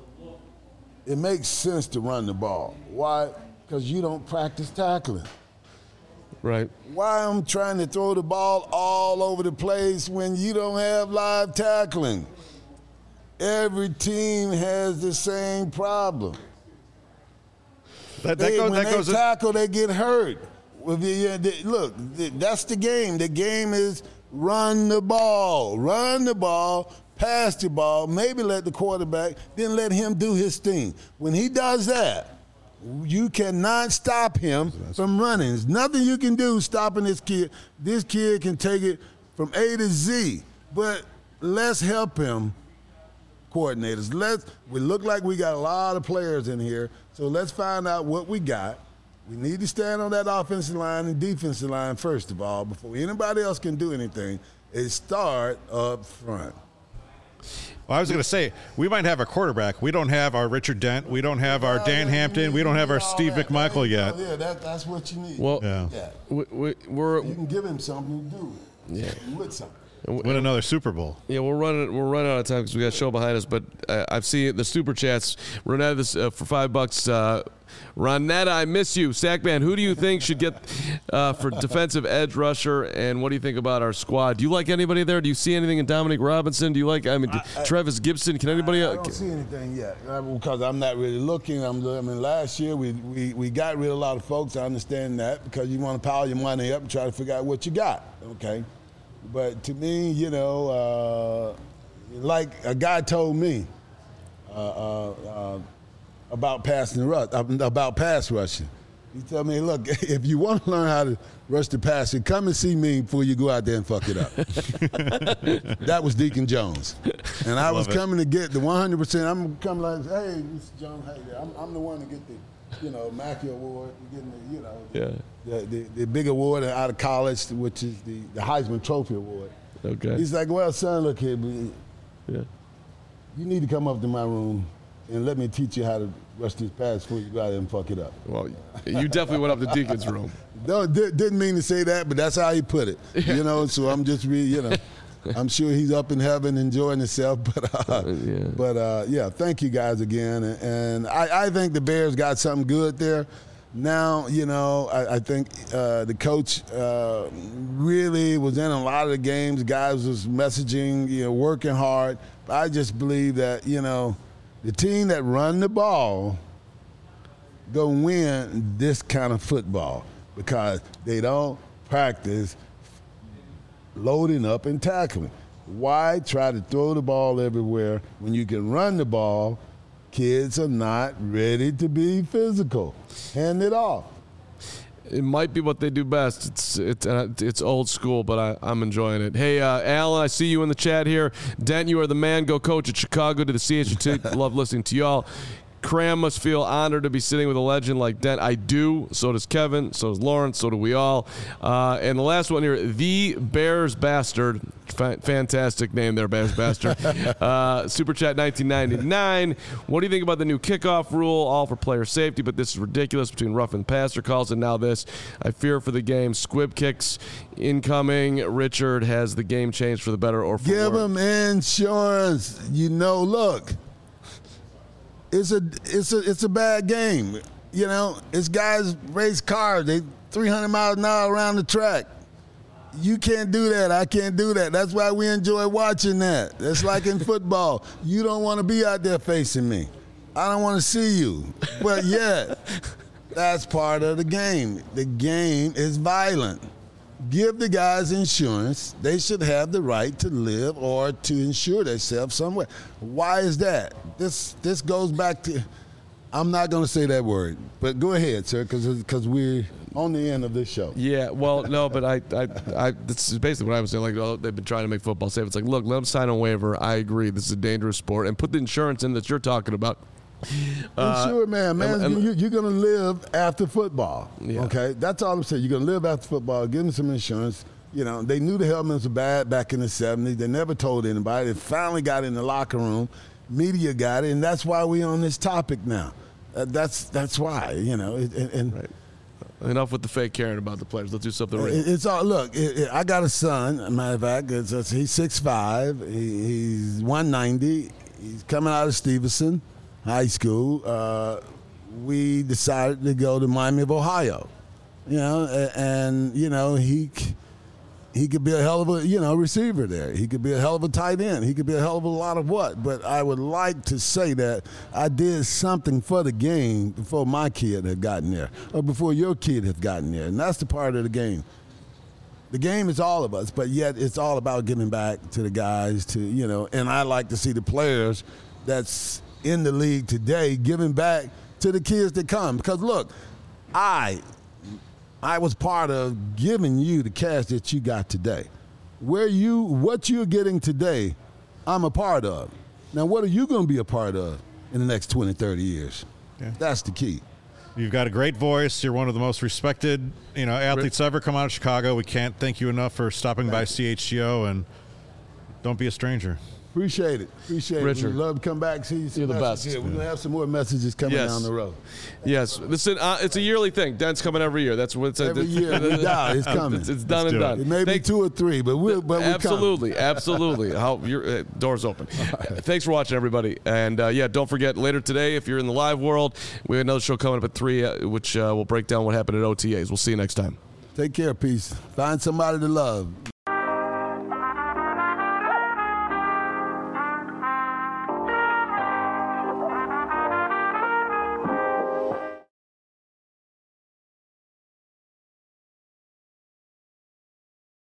S3: it makes sense to run the ball. Why? Because you don't practice tackling.
S1: Right.
S3: Why I'm trying to throw the ball all over the place when you don't have live tackling? Every team has the same problem.
S4: That, that
S3: they,
S4: goes,
S3: when
S4: that
S3: they
S4: goes
S3: tackle, they get hurt. Well, the, the, look, the, that's the game. The game is run the ball, run the ball, pass the ball, maybe let the quarterback, then let him do his thing. When he does that, you cannot stop him from running. There's nothing you can do stopping this kid. This kid can take it from A to Z. But let's help him, coordinators. Let's. We look like we got a lot of players in here, so let's find out what we got. We need to stand on that offensive line and defensive line first of all before anybody else can do anything. Is start up front.
S4: Well, I was going to say, we might have a quarterback. We don't have our Richard Dent. We don't have our Dan Hampton. We don't have our Steve McMichael yet.
S3: Yeah, that, that's what you need.
S1: Well,
S4: Yeah.
S3: yeah.
S1: we, we, we're
S3: You can give him something to do.
S1: Yeah.
S3: With something.
S4: Win another Super Bowl.
S1: Yeah, we're running. We're running out of time because we got a show behind us. But uh, I've seen the super chats. Ronetta, this uh, for five bucks. Uh, Ronetta, I miss you. Sackman, who do you think should get uh, for defensive edge rusher? And what do you think about our squad? Do you like anybody there? Do you see anything in Dominic Robinson? Do you like? I mean, I, I, Travis Gibson. Can anybody?
S3: I, I don't see anything yet because I'm not really looking. I'm. I mean, last year we, we we got rid of a lot of folks. I understand that because you want to pile your money up and try to figure out what you got. Okay. But to me, you know, uh, like a guy told me uh, uh, uh, about passing the rush, about pass rushing. He told me, look, if you want to learn how to rush the passer, come and see me before you go out there and fuck it up. That was Deacon Jones. And I was coming to get the one hundred percent. I'm coming like, hey, Mister Jones, hey, I'm, I'm the one to get the, you know, Mackey Award, getting the, you know,
S1: Yeah.
S3: the, the, the big award out of college, which is the, the Heisman Trophy Award.
S1: Okay.
S3: He's like, well, son, look here, man.
S1: Yeah.
S3: You need to come up to my room and let me teach you how to rush this pass before you go out there and fuck it up.
S1: Well, you definitely went up to Deacon's room.
S3: No, di- didn't mean to say that, but that's how he put it. You know, so I'm just, re- you know, I'm sure he's up in heaven enjoying himself. But, uh, yeah. but uh, yeah, thank you guys again. And, and I, I think the Bears got something good there. Now, you know, I, I think uh, the coach uh, really was in a lot of the games. Guys was messaging, you know, working hard. But I just believe that, you know, the team that run the ball go win this kind of football because they don't practice loading up and tackling. Why try to throw the ball everywhere when you can run the ball? Kids are not ready to be physical. Hand it off.
S1: It might be what they do best. It's it's uh, it's old school, but I, I'm enjoying it. Hey, uh, Alan, I see you in the chat here. Dent, you are the man. Go coach at Chicago to the C H T. Love listening to y'all. Cram must feel honored to be sitting with a legend like Dent. I do. So does Kevin. So does Lawrence. So do we all. Uh, and the last one here, the Bears Bastard. F- fantastic name there, Bears Bastard. uh, Super Chat nineteen ninety-nine. What do you think about the new kickoff rule? All for player safety, but this is ridiculous between rough and passer calls and now this. I fear for the game. Squib kicks incoming. Richard, has the game changed for the better or for
S3: Give
S1: worse?
S3: them insurance. You know, look. It's a it's a it's a bad game. You know, it's guys race cars. They three hundred miles an hour around the track. You can't do that. I can't do that. That's why we enjoy watching that. That's like in football. You don't want to be out there facing me. I don't want to see you. But yet, That's part of the game. The game is violent. Give the guys insurance. They should have the right to live or to insure themselves somewhere. Why is that? This this goes back to, I'm not going to say that word, but go ahead, sir, because we're on the end of this show.
S1: Yeah, well, no, but I, I, I, this is basically what I was saying. Like, oh, they've been trying to make football safe. It's like, look, let them sign a waiver. I agree. This is a dangerous sport. And put the insurance in that you're talking about.
S3: Uh, sure, man. Man, and, and, you, you're going to live after football. Yeah. Okay? That's all I'm saying. You're going to live after football. Give them some insurance. You know, they knew the helmets were bad back in the seventies. They never told anybody. They finally got in the locker room. Media got it, and that's why we're on this topic now. Uh, that's that's why, you know. And, and
S1: right. Enough with the fake caring about the players. Let's do something real.
S3: It's all, look, it, it, I got a son, as a matter of fact. It's, it's, he's six five. He, he's one ninety. He's coming out of Stevenson High School. Uh, we decided to go to Miami of Ohio, you know, and, and you know he he could be a hell of a you know receiver there. He could be a hell of a tight end. He could be a hell of a lot of what. But I would like to say that I did something for the game before my kid had gotten there, or before your kid had gotten there, and that's the part of the game. The game is all of us, but yet it's all about giving back to the guys. To you know, and I like to see the players that's in the league today giving back to the kids that come. Because look, I I was part of giving you the cash that you got today. Where you what you're getting today, I'm a part of. Now what are you going to be a part of in the next twenty, thirty years? Yeah. That's the key.
S4: You've got a great voice. You're one of the most respected, you know, athletes ever come out of Chicago. We can't thank you enough for stopping by C H G O, and don't be a stranger.
S3: Appreciate it. Appreciate
S1: Richard.
S3: it. We'd love to come back, see you.
S1: You're the best.
S3: Here. We're going to have some more messages coming
S1: yes.
S3: down the road.
S1: Yes. Listen, uh, it's a yearly thing. Dent's coming every year. That's what it's
S3: Every
S1: it's,
S3: year. We die. It's coming.
S1: It's, it's done
S4: Let's
S1: and
S4: do
S1: done.
S4: it.
S3: It may be
S1: Thank,
S3: two or three, but we're, but we're
S1: Absolutely.
S3: coming.
S1: Absolutely. How, your uh, door's open. Right. Thanks for watching, everybody. And, uh, yeah, don't forget, later today, if you're in the live world, we have another show coming up at three, uh, which uh, will break down what happened at O T As. We'll see you next time.
S3: Take care. Peace. Find somebody to love.